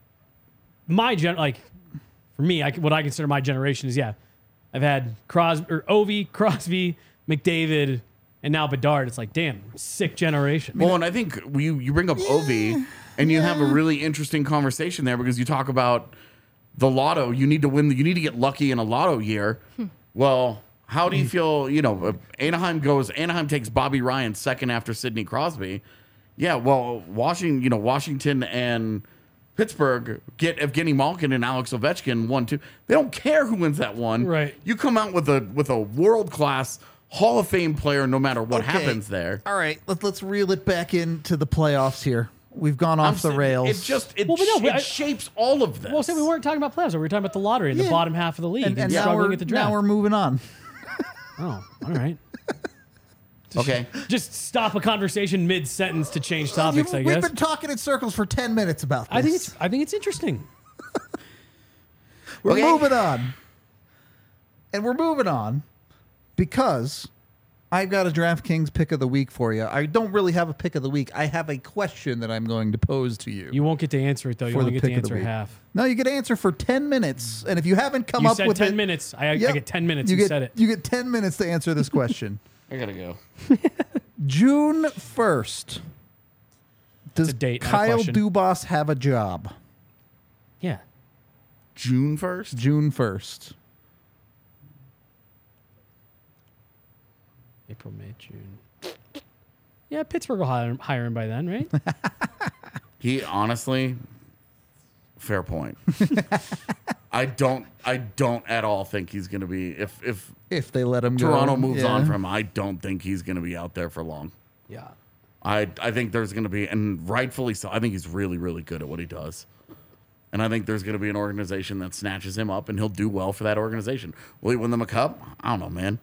my gen like for me, I, what I consider my generation is yeah, I've had Crosby or Ovi, Crosby, McDavid, and now Bedard. It's like damn, sick generation. Well, and I think you you bring up Ovi, and you have a really interesting conversation there because you talk about the lotto. You need to win. You need to get lucky in a lotto year. Well, how do you feel? You know, uh, Anaheim goes. Anaheim takes Bobby Ryan second after Sidney Crosby. Yeah, well, Washington. You know, Washington and Pittsburgh get Evgeny Malkin and Alex Ovechkin one two. They don't care who wins that one. Right. You come out with a with a world class Hall of Fame player, no matter what Okay. happens there. All right, let's let's reel it back into the playoffs here. We've gone off I'm the saying rails. It just it, Well, but no, sh- but it I- shapes all of this. Well, say we weren't talking about playoffs. We were talking about the lottery in Yeah. the bottom half of the league and, and, and now struggling we're at the draft. now we're moving on. Oh, all right. Okay. Just stop a conversation mid sentence to change topics. You- I We've guess. been talking in circles for ten minutes about this. I think it's. I think it's interesting. We're Okay. moving on. And we're moving on because I've got a DraftKings pick of the week for you. I don't really have a pick of the week. I have a question that I'm going to pose to you. You won't get to answer it though. You For only the get to pick of the answer week. half. No, you get to answer for ten minutes. And if you haven't come You up said with ten it, minutes. I, Yep. I get ten minutes. You You, get, said it. You get ten minutes to answer this question. I gotta go. June first. Does a date, not a Kyle question. Dubas have a job? Yeah. June first. June first. April, May, June. Yeah, Pittsburgh will hire, hire him by then, right? He honestly, fair point. I don't. I don't at all think he's gonna be. If if If they let him go. Toronto moves yeah. on from him, I don't think he's gonna be out there for long. yeah. I I think there's gonna be, and rightfully so. I think he's really really good at what he does. And I think there's going to be an organization that snatches him up, and he'll do well for that organization. Will he win them a cup? I don't know, man.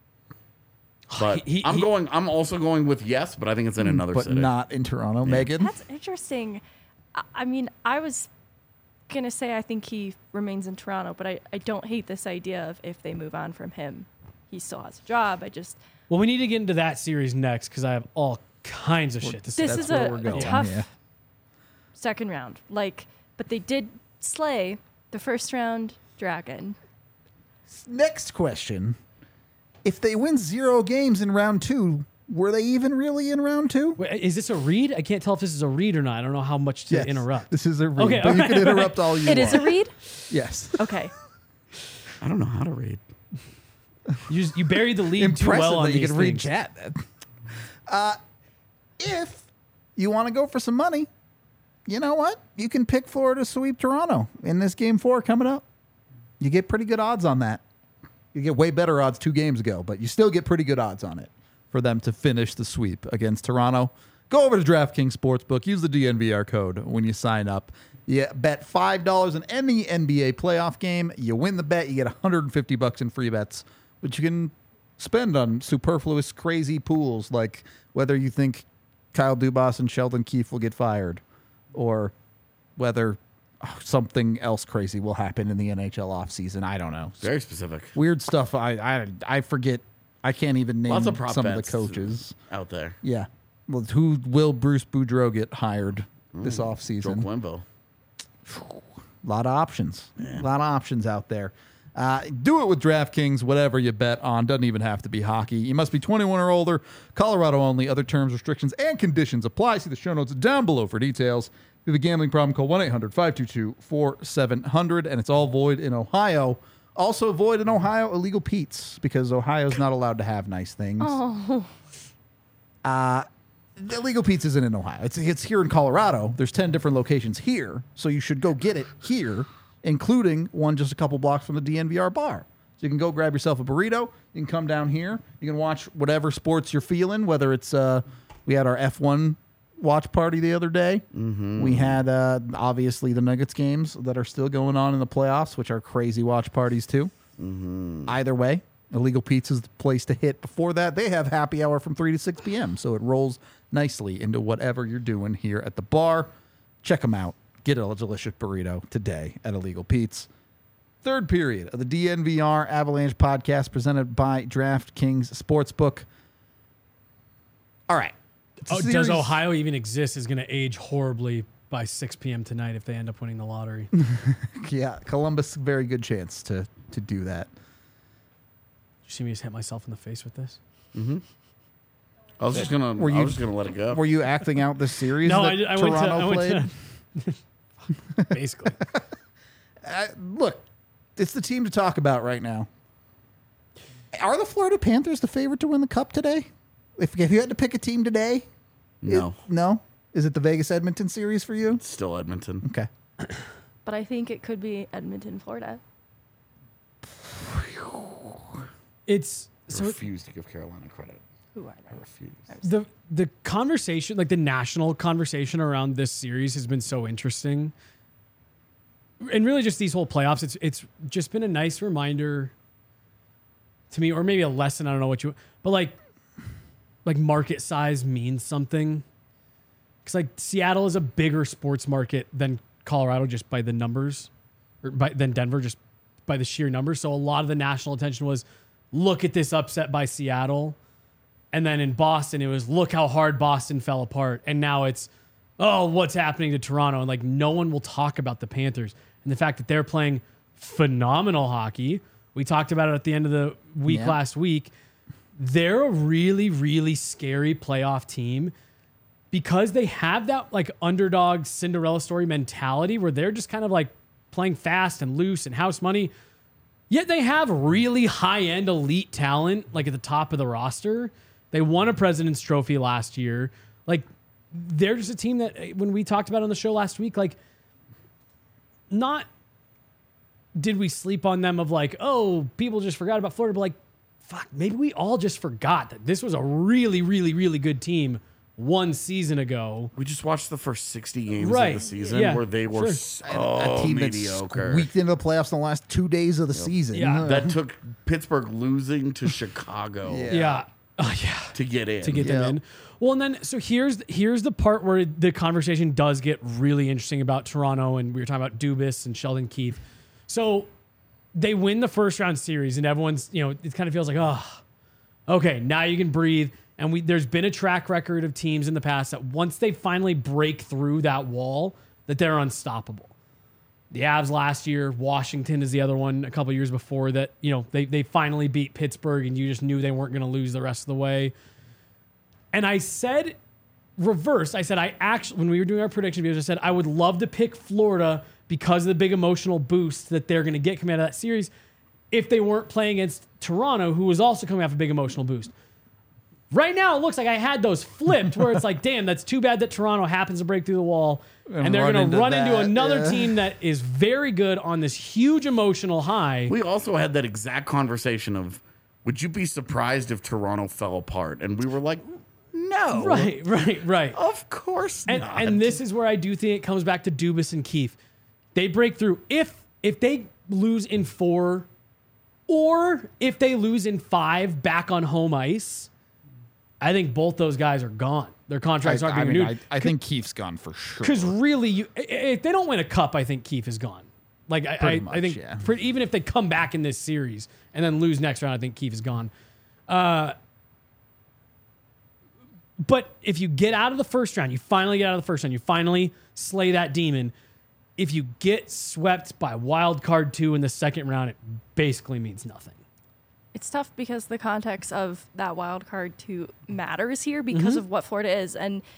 But He- he- I'm he- going. I'm also going with yes, but I think it's in another But city. not in Toronto, Megan. That's interesting. I, I mean, I was gonna say I think he remains in Toronto, but I, I don't hate this idea of if they move on from him, he still has a job. I just Well, we need to get into that series next because I have all kinds of shit to say. this That's is where a, we're a going, tough yeah. second round. Like, but they did slay the first round dragon. Next question. If they win zero games in round two, were they even really in round two? Wait, is this a read? I can't tell if this is a read or not. I don't know how much to Yes, interrupt. This is a read, Okay, but all you right, can all interrupt all you It is a want. read. Yes. Okay. I don't know how to read. You, just, you buried the lead too Impressive well on that you these can read things. chat. then. Uh, if you want to go for some money, you know what? You can pick Florida to sweep Toronto in this game four coming up. You get pretty good odds on that. You get way better odds two games ago, but you still get pretty good odds on it for them to finish the sweep against Toronto. Go over to DraftKings Sportsbook. Use the D N V R code when you sign up. You bet five dollars on any N B A playoff game. You win the bet. You get one hundred fifty bucks in free bets, which you can spend on superfluous, crazy pools like whether you think Kyle Dubas and Sheldon Keefe will get fired or whether oh, something else crazy will happen in the N H L offseason. I don't know. Very specific. Weird stuff. I, I I forget. I can't even name Lots of prop some of the bets coaches. out there. Yeah. Well, who will Bruce Boudreau get hired this Joe offseason? Quimbo. A lot of options. A lot of options out there. Uh, do it with DraftKings, whatever you bet on. Doesn't even have to be hockey. You must be twenty-one or older. Colorado only. Other terms, restrictions, and conditions apply. See the show notes down below for details. If you have a gambling problem, call one eight hundred five two two four seven zero zero, and it's all void in Ohio. Also void in Ohio, illegal Pete's, because Ohio's not allowed to have nice things. Oh. Uh, the illegal Pete's isn't in Ohio. It's, it's here in Colorado. There's ten different locations here, so you should go get it here, including one just a couple blocks from the D N V R bar. So you can go grab yourself a burrito. You can come down here. You can watch whatever sports you're feeling, whether it's, uh, we had our F one watch party the other day. Mm-hmm. We had uh, obviously the Nuggets games that are still going on in the playoffs, which are crazy watch parties too. Mm-hmm. Either way, Illegal Pete's is the place to hit. Before that, they have happy hour from three to six p.m., so it rolls nicely into whatever you're doing here at the bar. Check them out. Get a delicious burrito today at Illegal Pete's. Third period of the D N V R Avalanche podcast presented by DraftKings Sportsbook. All right. Oh, Series- does Ohio even exist is going to age horribly by six p.m. tonight if they end up winning the lottery. Yeah, Columbus, very good chance to to do that. You see me just hit myself in the face with this? Mm-hmm. I was just gonna. Were I you- was just gonna let it go. Were you acting out this series No, that I, I went to. Toronto I played? went to basically. Uh, look, it's the team to talk about right now. Are the Florida Panthers the favorite to win the Cup today? If, if you had to pick a team today, No, it- no. Is it the Vegas Edmonton series for you? still Edmonton. Okay. But I think it could be Edmonton, Florida. It's I so refuse to give Carolina credit. Who are I they? refuse. the the conversation, like the national conversation around this series, has been so interesting, and really just these whole playoffs. It's it's just been a nice reminder to me, or maybe a lesson. I don't know what you, but like like market size means something. Because like Seattle is a bigger sports market than Colorado just by the numbers, or by than Denver just by the sheer numbers. So a lot of the national attention was, look at this upset by Seattle. And then in Boston, it was, look how hard Boston fell apart. And now it's, oh, what's happening to Toronto? And like no one will talk about the Panthers and the fact that they're playing phenomenal hockey. We talked about it at the end of the week Yeah. last week. They're a really, really scary playoff team because they have that like underdog Cinderella story mentality where they're just kind of like playing fast and loose and house money. Yet they have really high-end elite talent like at the top of the roster. They won a President's Trophy last year. Like they're just a team that when we talked about on the show last week, like not did we sleep on them of like, oh, people just forgot about Florida, but like, fuck, maybe we all just forgot that this was a really, really, really good team one season ago. We just watched the first sixty games Right. of the season Yeah. where they were Sure. so a team that mediocre. squeaked into the playoffs in the last two days of the season. Yeah. That took Pittsburgh losing to Chicago Yeah. Yeah. Oh, yeah. to get in. to get Yeah. them in. Well, and then so here's here's the part where the conversation does get really interesting about Toronto, and we were talking about Dubas and Sheldon Keefe. So they win the first round series, and everyone's, you know, it kind of feels like, oh, okay, now you can breathe. And we there's been a track record of teams in the past that once they finally break through that wall, that they're unstoppable. The Avs last year, Washington is the other one a couple years before that, you know, they, they finally beat Pittsburgh and you just knew they weren't going to lose the rest of the way. And I said, reverse, I said, I actually, when we were doing our prediction videos, I said, I would love to pick Florida because of the big emotional boost that they're going to get coming out of that series if they weren't playing against Toronto, who was also coming off a big emotional boost. Right now, it looks like I had those flipped where it's like, damn, that's too bad that Toronto happens to break through the wall. And, And they're run going to into run into that, another yeah. team that is very good on this huge emotional high. We also had that exact conversation of, would you be surprised if Toronto fell apart? And we were like, no. Right, right, right. Of course And, not. and this is where I do think it comes back to Dubas and Keefe. They break through. If if they lose in four or if they lose in five back on home ice, I think both those guys are gone. Their contracts I, aren't I being mean, renewed. I, I think Keefe's gone for sure. Because really, you, i- if they don't win a cup, I think Keefe is gone. Like I, Pretty I, much, I think yeah. for, even if they come back in this series and then lose next round, I think Keefe is gone. Uh, but if you get out of the first round, you finally get out of the first round, you finally slay that demon. If you get swept by wild card two in the second round, it basically means nothing. It's tough because the context of that wild card two matters here because of what Florida is. And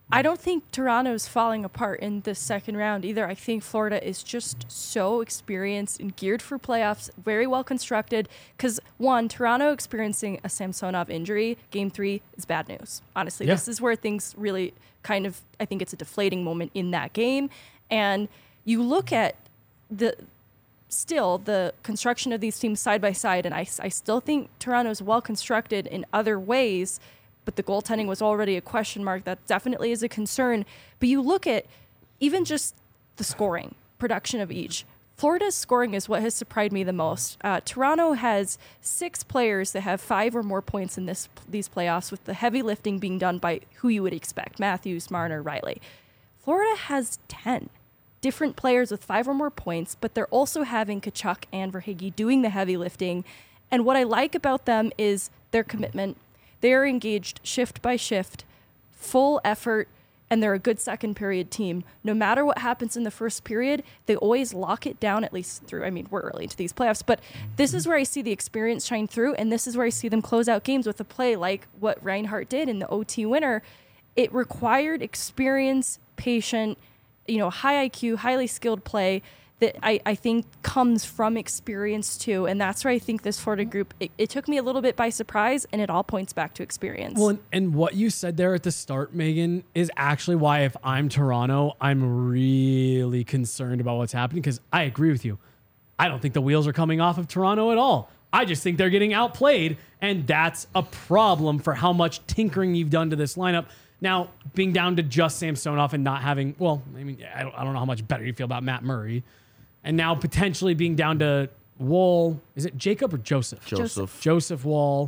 I don't think Toronto's falling apart in this second round either. I think Florida is just so experienced and geared for playoffs, very well constructed. Because, one, Toronto experiencing a Samsonov injury, game three, is bad news. Honestly, Yeah. this is where things really kind of, I think it's a deflating moment in that game. And you look at the still the construction of these teams side by side, and I, I still think Toronto is well constructed in other ways, but the goaltending was already a question mark. That definitely is a concern. But you look at even just the scoring production of each. Florida's scoring is what has surprised me the most. Uh, Toronto has six players that have five or more points in this these playoffs, with the heavy lifting being done by who you would expect, Matthews, Marner, Riley. Florida has ten different players with five or more points, but they're also having Kachuk and Verhaeghe doing the heavy lifting. And what I like about them is their commitment. They're engaged shift by shift, full effort, and they're a good second period team. No matter what happens in the first period, they always lock it down, at least through, I mean, we're early into these playoffs, but this is where I see the experience shine through, and this is where I see them close out games with a play like what Reinhart did in the O T winner. It required experience, patient, you know, high I Q, highly skilled play that I, I think comes from experience too. And that's where I think this Florida group, it, it took me a little bit by surprise, and it all points back to experience. Well, and, and what you said there at the start, Megan, is actually why if I'm Toronto, I'm really concerned about what's happening, because I agree with you. I don't think the wheels are coming off of Toronto at all. I just think they're getting outplayed, and that's a problem for how much tinkering you've done to this lineup. Now, being down to just Samsonov and not having, well, I mean, I don't, I don't know how much better you feel about Matt Murray. And now potentially being down to Wall. Is it Jacob or Joseph? Joseph. Joseph Wall.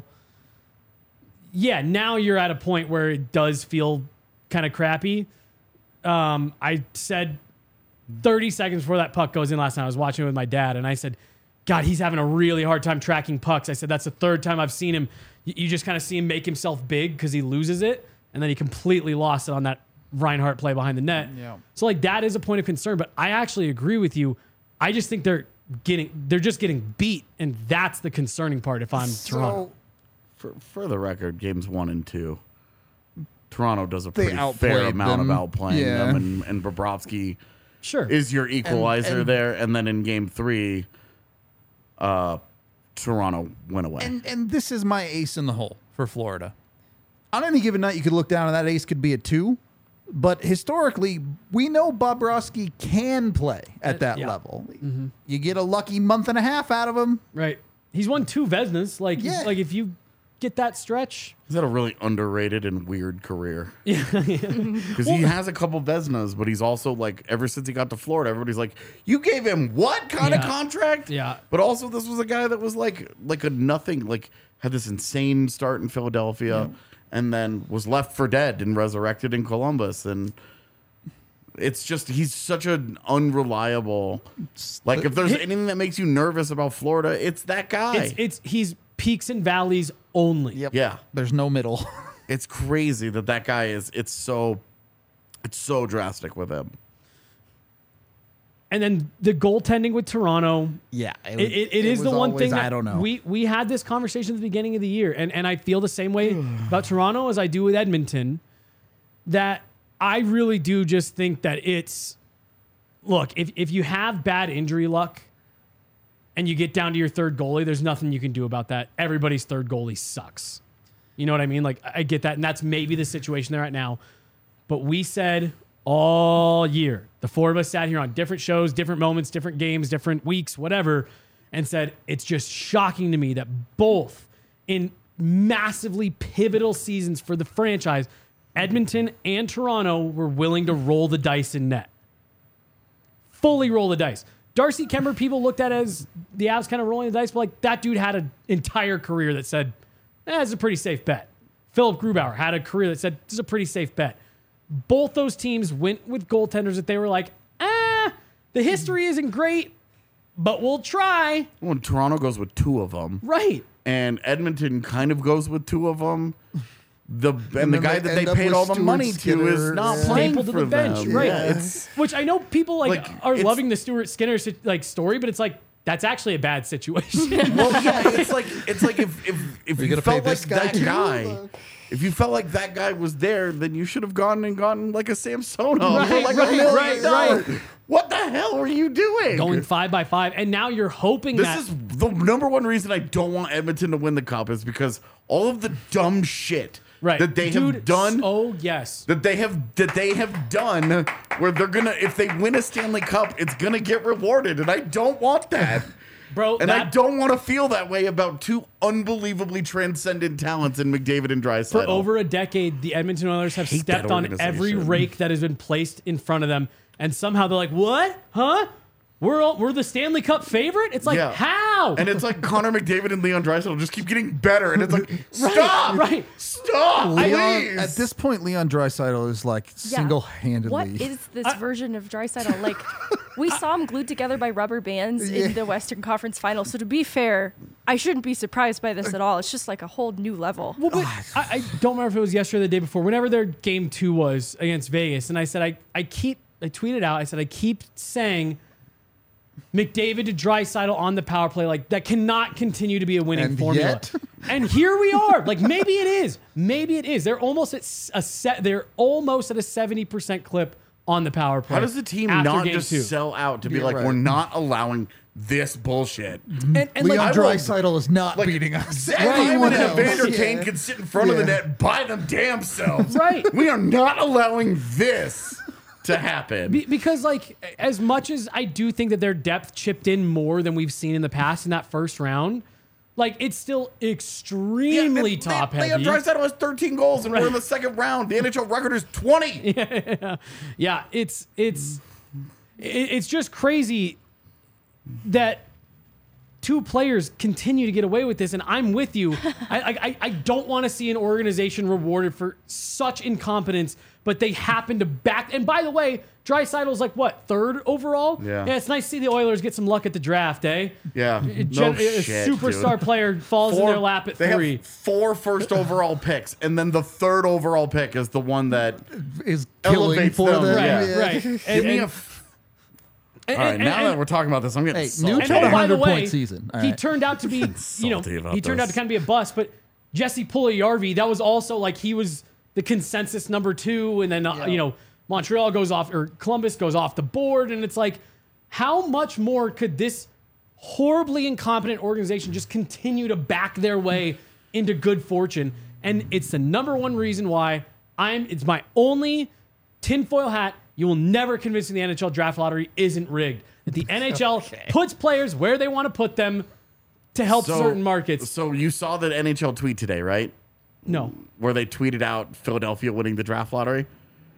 Yeah, now you're at a point where it does feel kind of crappy. Um, I said thirty seconds before that puck goes in last night, I was watching it with my dad, and I said, God, he's having a really hard time tracking pucks. I said, that's the third time I've seen him. You, you just kind of see him make himself big because he loses it. And then he completely lost it on that Reinhart play behind the net. Yeah. So like that is a point of concern, but I actually agree with you. I just think they're getting, they're just getting beat. And that's the concerning part if I'm Toronto. For, for the record, games one and two, Toronto does a They pretty outplayed fair amount them. of outplaying Yeah. them, and, and Bobrovsky Sure. is your equalizer and- there. And then in game three, uh, Toronto went away. And and this is my ace in the hole for Florida. On any given night, you could look down and that ace could be a two. But historically, we know Bobrovsky can play at Uh, that yeah. level. You get a lucky month and a half out of him. Right. He's won two Vesnas. Like, Yeah. like if you get that stretch. He's had a really underrated and weird career. Yeah. Because he has a couple Vesnas, but he's also like, ever since he got to Florida, everybody's like, you gave him what kind of Yeah. contract? Yeah. But also, this was a guy that was like, like a nothing, like had this insane start in Philadelphia, and then was left for dead and resurrected in Columbus. And it's just, he's such an unreliable. Like, if there's anything that makes you nervous about Florida, it's that guy. It's, it's, he's peaks and valleys only. Yep. Yeah. There's no middle. It's crazy that that guy is, it's so, it's so drastic with him. And then the goaltending with Toronto. Yeah. It, it, it is was the one always, thing that I don't know. we we had this conversation at the beginning of the year, and, and I feel the same way about Toronto as I do with Edmonton, that I really do just think that it's, look, if, if you have bad injury luck and you get down to your third goalie, there's nothing you can do about that. Everybody's third goalie sucks. You know what I mean? Like, I get that, and that's maybe the situation they're at now. But we said all year, the four of us sat here on different shows, different moments, different games, different weeks, whatever, and said it's just shocking to me that both in massively pivotal seasons for the franchise, Edmonton and Toronto were willing to roll the dice in net. Fully roll the dice. Darcy Kemper, people looked at as the Avs kind of rolling the dice, but like that dude had an entire career that said, eh, it's a pretty safe bet. Philip Grubauer had a career that said, this is a pretty safe bet. Both those teams went with goaltenders that they were like, ah, the history isn't great, but we'll try. When Toronto goes with two of them, Right. and Edmonton kind of goes with two of them, the and, And the then guy they that they end up paid with all the Stuart money to Skinner, is not yeah. playing Stapled to for the bench, them. right. Yeah, it's Which I know people like, Like, are it's- loving the Stuart Skinner like story, but it's like that's actually a bad situation. Well, yeah, it's like it's like if if if Are you you gonna felt pay like this guy that too? guy, if you felt like that guy was there, then you should have gone and gotten like a Samsonov for Right, like right, a million right, dollars. right. What the hell are you doing? Going five by five, and now you're hoping This that is the number one reason I don't want Edmonton to win the cup is because all of the dumb shit right that they Dude, have done. Oh yes, That they have that they have done where they're gonna if they win a Stanley Cup, it's gonna get rewarded, and I don't want that. bro. And that, I don't want to feel that way about two unbelievably transcendent talents in McDavid and Draisaitl. for over a decade, the Edmonton Oilers have hate that stepped on every organization. rake that has been placed in front of them, and somehow they're like, "What? Huh? We're all, we're the Stanley Cup favorite." It's like, Yeah. how? And it's like Connor McDavid and Leon Draisaitl just keep getting better, and it's like, stop, right. stop, Leon, please. at this point, Leon Draisaitl is like Yeah. single-handedly. What is this version of Draisaitl? Like, we saw him glued together by rubber bands Yeah. in the Western Conference Final. So to be fair, I shouldn't be surprised by this at all. It's just like a whole new level. Well, but I, I don't remember if it was yesterday or the day before. Whenever their game two was against Vegas, and I said I I keep I tweeted out. I said I keep saying McDavid to Draisaitl on the power play, like that cannot continue to be a winning And formula. yet- And here we are. Like maybe it is. Maybe it is. They're almost at s- a set. They're almost at a seventy percent clip on the power play. How does the team after not game just two. sell out to be Yeah, like, right. we're not allowing this bullshit? And, and Leon like, I will- Draisaitl is not Like, beating us. Zach Anyone Hyman and else. Evander Yeah. Kane can sit in front of the Yeah. net by them damn selves. Right. We are not allowing this to happen. Be- because like as much as I do think that their depth chipped in more than we've seen in the past in that first round, like it's still extremely Yeah, top they, heavy. Leon Draisaitl has thirteen goals and we're in the second round. The N H L record is twenty. Yeah, it's it's it- it's just crazy that two players continue to get away with this, and I'm with you. I I, I don't want to see an organization rewarded for such incompetence, but they happen to back. And by the way, Draisaitl's like what, third overall? Yeah. yeah. It's nice to see the Oilers get some luck at the draft, eh? Yeah, A, no gen- a shit, superstar dude. player falls in their lap at they three. have four first overall picks, and then the third overall pick is the one that Is killing elevates for them. them. Right, Yeah. right. give And- me a. and- F- and- all right, and- now and- that we're talking about this, I'm getting Hey, salty. new And oh, by the hundred way, point season. All he right. turned out to be, you know, salty about he turned out this. to kind of be a bust. But Jesse Puljujarvi, that was also like he was the consensus number two, and then uh, you know Montreal goes off or Columbus goes off the board, and it's like, how much more could this horribly incompetent organization just continue to back their way into good fortune? And it's the number one reason why I'm. It's my only tinfoil hat. You will never convince me the N H L draft lottery isn't rigged. That the N H L puts players where they want to put them to help So- certain markets. So you saw that N H L tweet today, right? No, Where they tweeted out Philadelphia winning the draft lottery.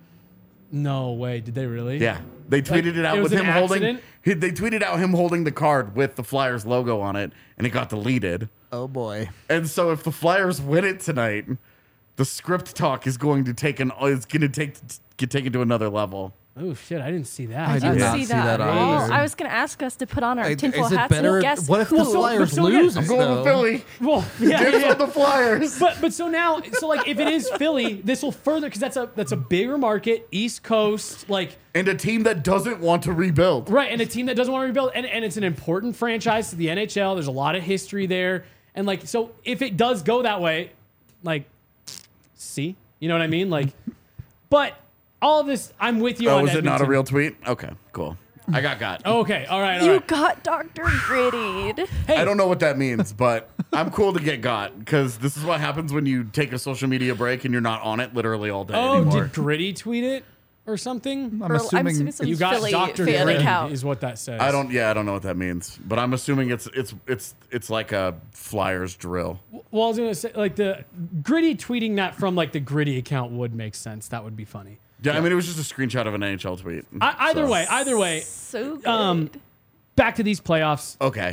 no way. Did they really? Yeah, they tweeted Like, it out it was with an him holding. accident? He, they tweeted out him holding the card with the Flyers logo on it, and it got deleted. Oh boy. And so, if the Flyers win it tonight, the script talk is going to take an is going to take get taken to another level. Oh shit! I didn't see that. I did Didn't not see see that. that at either. all. I was going to ask us to put on our Hey, tinfoil is it hats. better? We'll guess What if who. the so- Flyers but so again- lose? I'm going though? with Philly. Well, yeah, Dibs yeah. on the Flyers. But but so now so like if it is Philly, this will further because that's a that's a bigger market, East Coast, like And a team that doesn't want to rebuild. right, and a team that doesn't want to rebuild, and, and it's an important franchise to the N H L. There's a lot of history there, and like so if it does go that way, like, see, you know what I mean, like, but all of this, I'm with you. Oh, on is it not a Edmonton. real tweet? Okay, cool. I got got. Okay, all right, all You right. got Doctor Grittied. Hey, I don't know what that means, but I'm cool to get got because this is what happens when you take a social media break and you're not on it literally all day Oh, anymore. did Gritty tweet it or something? I'm Or- assuming, I'm assuming some You got Philly Doctor fan Gritty account. is what that says. I don't. Yeah, I don't know what that means, but I'm assuming it's it's it's it's like a Flyers drill. Well, I was gonna say like the Gritty tweeting that from like the Gritty account would make sense. That would be funny. Yeah, I mean it was just a screenshot of an N H L tweet. I, either So- way, either way. So good. Um, back to these playoffs. Okay,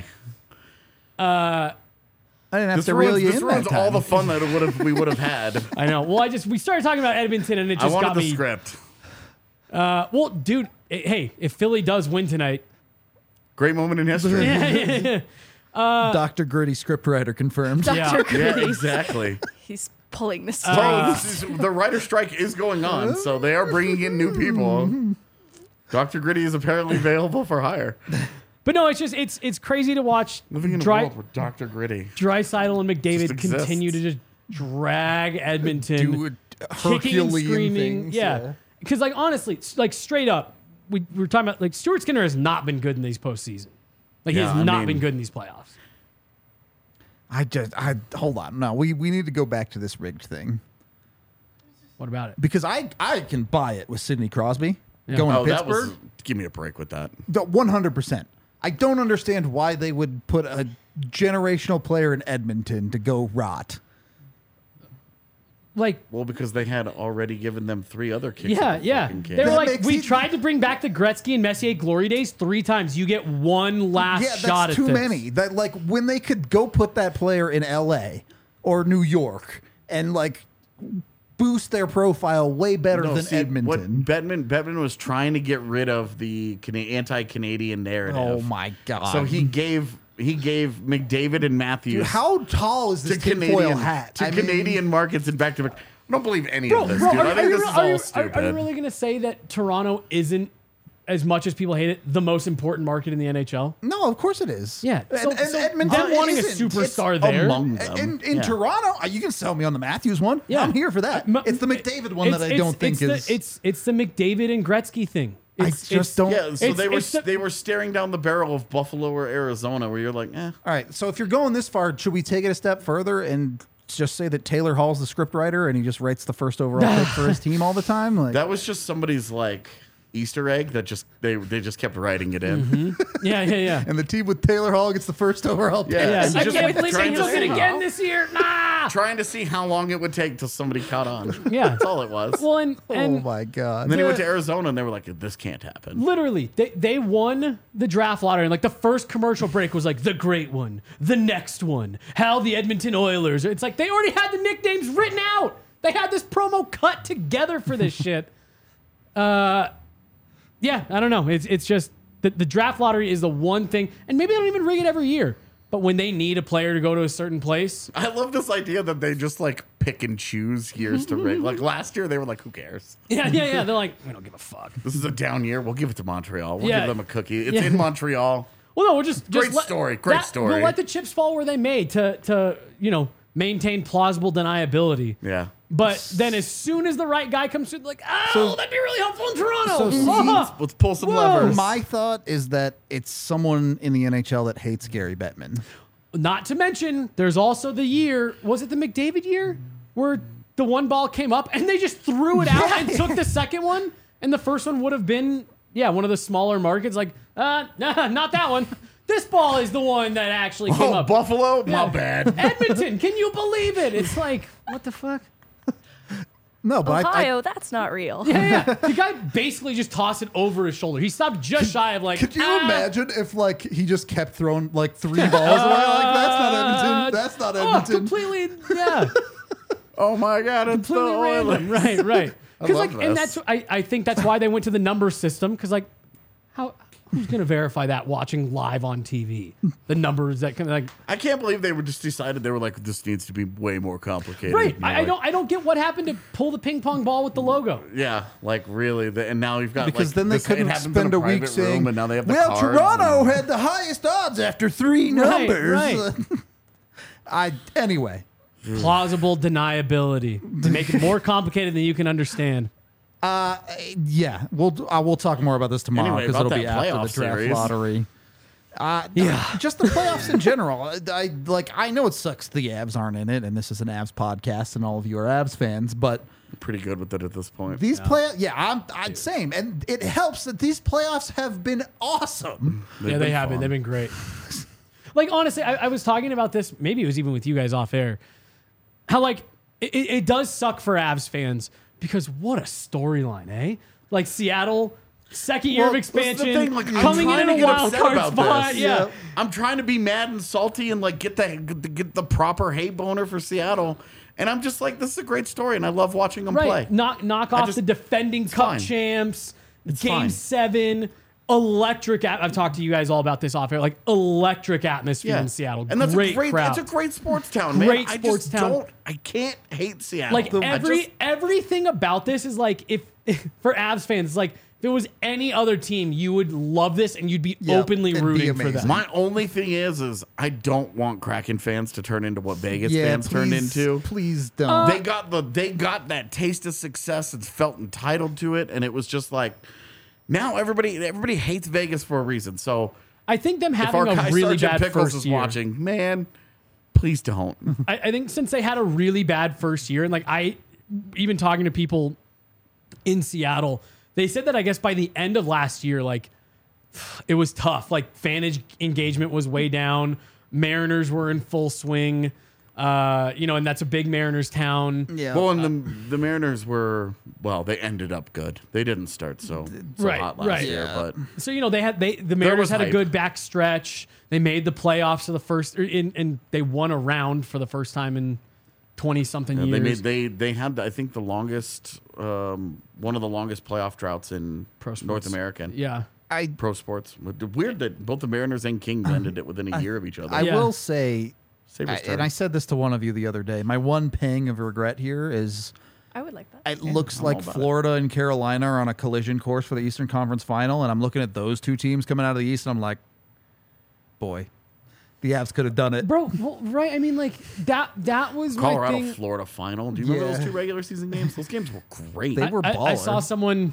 I didn't have this to ruins, reel you this in ruins that all time. the fun that it would have we would have had. I know. Well, I just we started talking about Edmonton and it I just wanted got the me. script. Uh, well, dude, eh, hey, if Philly does win tonight, Great moment in history. Doctor Gritty scriptwriter confirmed. Doctor yeah. Yeah, Gritty. exactly. He's pulling this. Bro, Uh, this is, the writer strike is going on, so they are bringing in new people. Doctor Gritty is apparently available for hire. But no, it's just it's it's crazy to watch. Living in Dry, a world where Doctor Gritty. Draisaitl and McDavid Just exists. continue to just drag Edmonton, Do it kicking and Herculean screaming. things, Yeah, yeah. because like honestly, s- like straight up, we, we were talking about like Stuart Skinner has not been good in these postseason. Like he Yeah, has I not mean- been good in these playoffs. I just, I hold on. No, we, we need to go back to this rigged thing What about it? because I, I can buy it with Sidney Crosby Yeah. going Oh, to that Pittsburgh. was. Give me a break with that. one hundred percent. I don't understand why they would put a generational player in Edmonton to go rot. Like Well, because they had already given them three other kicks. yeah, at the yeah. fucking can. They were That like, makes we it- tried to bring back the Gretzky and Messier glory days three times. You get one last Yeah, shot that's at too this. many. That like when they could go put that player in L A or New York and like boost their profile way better No, than see, Edmonton. What Bettman, Bettman was trying to get rid of the Cana- anti-Canadian narrative. Oh my god! So he gave he gave McDavid and Matthews Dude, how tall is to this tinfoil Canadian hat? to I mean, Canadian markets and back to back. I don't believe any Bro, of this, bro, dude. are, I are think you, this re- is are all you- are- stupid. are you really going to say that Toronto isn't, as much as people hate it, the most important market in the N H L? No, of course it is. Yeah, so- and, and so Edmonton them wanting a isn't. superstar It's there- among them. In, in Yeah. Toronto, uh, you can sell me on the Matthews one. Yeah. I'm here for that. M- It's the McDavid one that It's- I it's- don't think it's is. The, it's it's the McDavid and Gretzky thing. I It's, just it's- don't. Yeah, so It's- they were it's the- they were staring down the barrel of Buffalo or Arizona, where you're like, eh. All right. So if you're going this far, should we take it a step further and just say that Taylor Hall's the script writer and he just writes the first overall pick for his team all the time? Like That was just somebody's like Easter egg that just they they just kept writing it in. Yeah, yeah, yeah. and the team with Taylor Hall gets the first overall pick. Yeah. Yeah, And I just can't believe trying they to took it see- again this year. Nah. Trying to see how long it would take till somebody caught on. Yeah. That's all it was. Well, and, Oh and my god. and then he went the- to Arizona and they were like, this can't happen. literally, they, they won the draft lottery. And like the first commercial break was like the great one, the next one, how the Edmonton Oilers. It's like they already had the nicknames written out. They had this promo cut together for this shit. Uh, yeah, I don't know. It's it's just the, the draft lottery is the one thing, and maybe they don't even rig it every year. But when they need a player to go to a certain place, I love this idea that they just like pick and choose years to rig. Like last year, they were like, who cares? yeah, yeah, yeah, they're like, we don't give a fuck. This is a down year. We'll give it to Montreal. We'll Yeah. give them a cookie. It's Yeah. in Montreal. Well, no, we're just, just Great let- story, great that- story. We'll let the chips fall where they may to to you know maintain plausible deniability. Yeah. But then as soon as the right guy comes through, like, oh, So- that'd be really helpful in Toronto. So Ah. Let's pull some Whoa. levers. My thought is that it's someone in the N H L that hates Gary Bettman. Not to mention, there's also the year, was it the McDavid year? Where the one ball came up and they just threw it out and took the second one. And the first one would have been, yeah, one of the smaller markets. Like, uh, nah, not that one. This ball is the one that actually came Oh, up. Buffalo? Yeah. My bad. Edmonton, can you believe it? It's like, what the fuck? No, but I, I, Ohio, that's not real. Yeah, yeah. The guy basically just tossed it over his shoulder. He stopped just shy of like. could you ah. imagine if like he just kept throwing like three balls away? Like that's not Edmonton. That's not Oh, Edmonton. completely, yeah, Oh my God, it's the completely Oilers. random. Right, right. I Because love like, and this. that's I, I think that's why they went to the number system. Because like, how who's gonna verify that watching live on T V? The numbers that can like. I can't believe they were just decided they were like, this needs to be way more complicated. Right. And you're I, I like, don't. I don't get what happened to pull the ping pong ball with the logo. Yeah, like really. The, and now you've got because like, then they this- it couldn't happens in spend a week private saying, room, and now they have the well, cards Toronto and- had the highest odds after three Right, numbers. right. I anyway. Plausible deniability to make it more complicated than you can understand. Uh, yeah, we'll uh, we'll talk more about this tomorrow Anyway, because about it'll be that after playoff the draft series. lottery. Uh, Yeah. just the playoffs in general. I, I like. I know it sucks the Avs aren't in it, and this is an Avs podcast, and all of you are Avs fans. But pretty good with it at this point. these play, yeah, I'm, I'm same, and it helps that these playoffs have been awesome. They've yeah, they been have been. fun. They've been great. Like honestly, I, I was talking about this. Maybe it was even with you guys off air. How like it, it it does suck for Avs fans because what a storyline, eh? Like Seattle, second year Well, of this is the expansion, thing, like, I'm coming trying in to a get wild upset card about spot. this. Yeah. Yeah. I'm trying to be mad and salty and like get the get the proper hate boner for Seattle, and I'm just like, this is a great story, and I love watching them Right. play. Knock knock off just- the defending cup fine. champs. It's game fine. seven. Electric. At- I've talked to you guys all about this off air. Like electric atmosphere in Seattle. and that's great a great. crowd. It's a great sports town, man. Great I sports just town. Don't, I can't hate Seattle. Like I every just- everything about this is like if for Avs fans, it's like If it was any other team, you would love this and you'd be Yeah, openly it'd be rooting for amazing. them. My only thing is, is I don't want Kraken fans to turn into what Vegas Yeah, fans turned please- into. Please don't. They got the they got that taste of success and felt entitled to it, and it was just like now everybody everybody hates Vegas for a reason. So I think them if our having guy a really Sergeant bad Pickles first is year. watching, man, please don't. I, I think since they had a really bad first year, and like I, even talking to people in Seattle, they said that I guess by the end of last year, like it was tough. Like fan eng- engagement was way down. Mariners were in full swing. Uh, you know, and that's a big Mariners town. yeah. Well, and the the Mariners were well, they ended up good. They didn't start so, so Right, hot last right. year, Yeah. but So you know they had they the Mariners was had a hype. good back stretch. They made the playoffs for the first, or in, and they won a round for the first time in twenty something Yeah, years. they made they they had I think the longest um, one of the longest playoff droughts in Pro sports. North American yeah. I pro sports. Weird that both the Mariners and Kings ended it within a year of each other. I Yeah. will say, Sabres I- turn. and I said this to one of you the other day. My one pang of regret here is I would like that. it looks I'm like all about Florida and Carolina are on a collision course for the Eastern Conference Final, and I'm looking at those two teams coming out of the East, and I'm like, boy, the Avs could have done it. Bro, well, right? I mean, like that. That was my Colorado thing. Florida final. Do you remember Yeah. those two regular season games? Those games were great. They were I, I, I saw baller. someone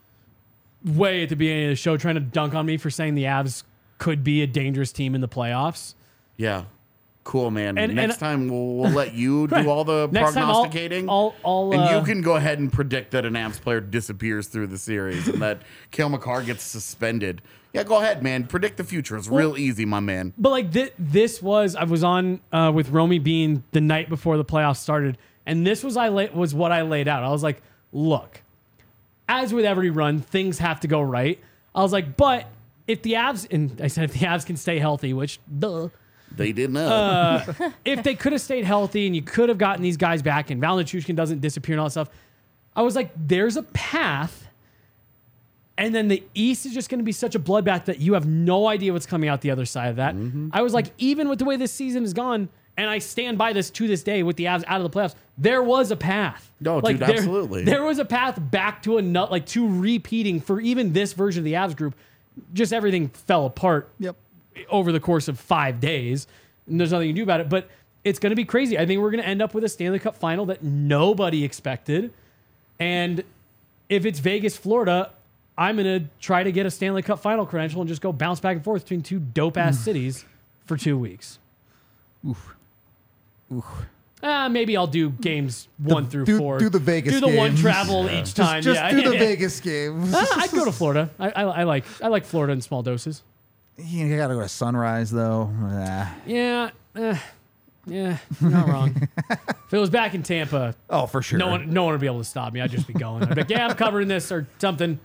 way at the beginning of the show trying to dunk on me for saying the Avs could be a dangerous team in the playoffs. Yeah. Cool, man. And- Next and- time we'll, we'll let you do all the Next time I'll- prognosticating. I'll- I'll, and uh, you can go ahead and predict that an Avs player disappears through the series and that Cale Makar gets suspended. Yeah, go ahead, man. Predict the future. It's real easy, my man. But like thi- this was, I was on uh, with Romy Bean the night before the playoffs started, and this was I la- was what I laid out. I was like, look, as with every run, things have to go right. I was like, but if the Avs, and I said if the Avs can stay healthy, which duh, They did not. Uh, if they could have stayed healthy and you could have gotten these guys back and Val Nichushkin doesn't disappear and all that stuff, I was like, there's a path. And then the East is just going to be such a bloodbath that you have no idea what's coming out the other side of that. I was like, even with the way this season has gone, and I stand by this to this day with the Avs out of the playoffs, there was a path. No, like, dude, there, absolutely. There was a path back to a nut, like to repeating for even this version of the Avs group. Just everything fell apart Yep. over the course of five days. And there's nothing you can do about it. But it's going to be crazy. I think we're going to end up with a Stanley Cup final that nobody expected. And if it's Vegas, Florida, I'm going to try to get a Stanley Cup final credential and just go bounce back and forth between two dope ass cities for two weeks. Oof. Oof. Uh, maybe I'll do games one through do- four. do the Vegas Do the one games. travel each Just, time. just yeah, do the yeah. Vegas games. Uh, I'd go to Florida. I, I, I like I like Florida in small doses. You gotta go to Sunrise though. Ah. Yeah, eh, yeah, you're not wrong. If it was back in Tampa, Oh, for sure. no one, no one would be able to stop me. I'd just be going. I'd be like, yeah, I'm covering this or something.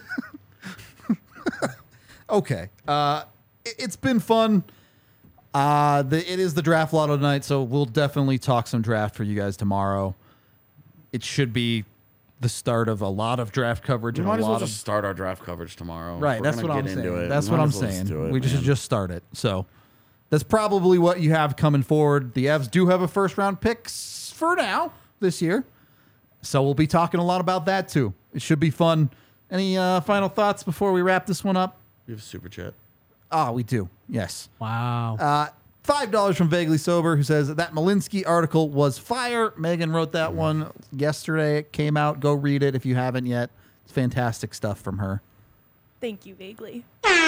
Okay. Uh, it, it's been fun. Uh, the, it is the draft lotto night, so we'll definitely talk some draft for you guys tomorrow. It should be the start of a lot of draft coverage We and might a as well lot of just start our draft coverage tomorrow. If right. we're That's gonna what I'm get into saying. it, That's we what might I'm as well just saying. do it, we just man. just start it. So that's probably what you have coming forward. The Avs do have a first round pick s- for now this year, so we'll be talking a lot about that too. It should be fun. Any uh, final thoughts before we wrap this one up? We have a super chat. Ah, we do. Yes. Wow. Uh, Five dollars from Vaguely Sober, who says that Malinsky article was fire. Megan wrote that one yesterday. It came out. Go read it if you haven't yet. It's fantastic stuff from her. Thank you, vaguely.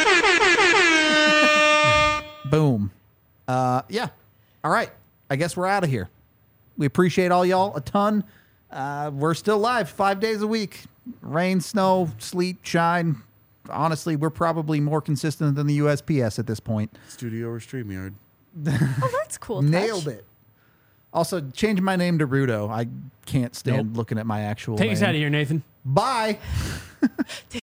Boom. Uh, yeah. All right. I guess we're out of here. We appreciate all y'all a ton. Uh, we're still live five days a week. Rain, snow, sleet, shine. Honestly, we're probably more consistent than the U S P S at this point. Studio or StreamYard. Oh, that's cool. Nailed it. Also, change my name to Rudo. I can't stand Nope. looking at my actual Take name. us out of here, Nathan. Bye.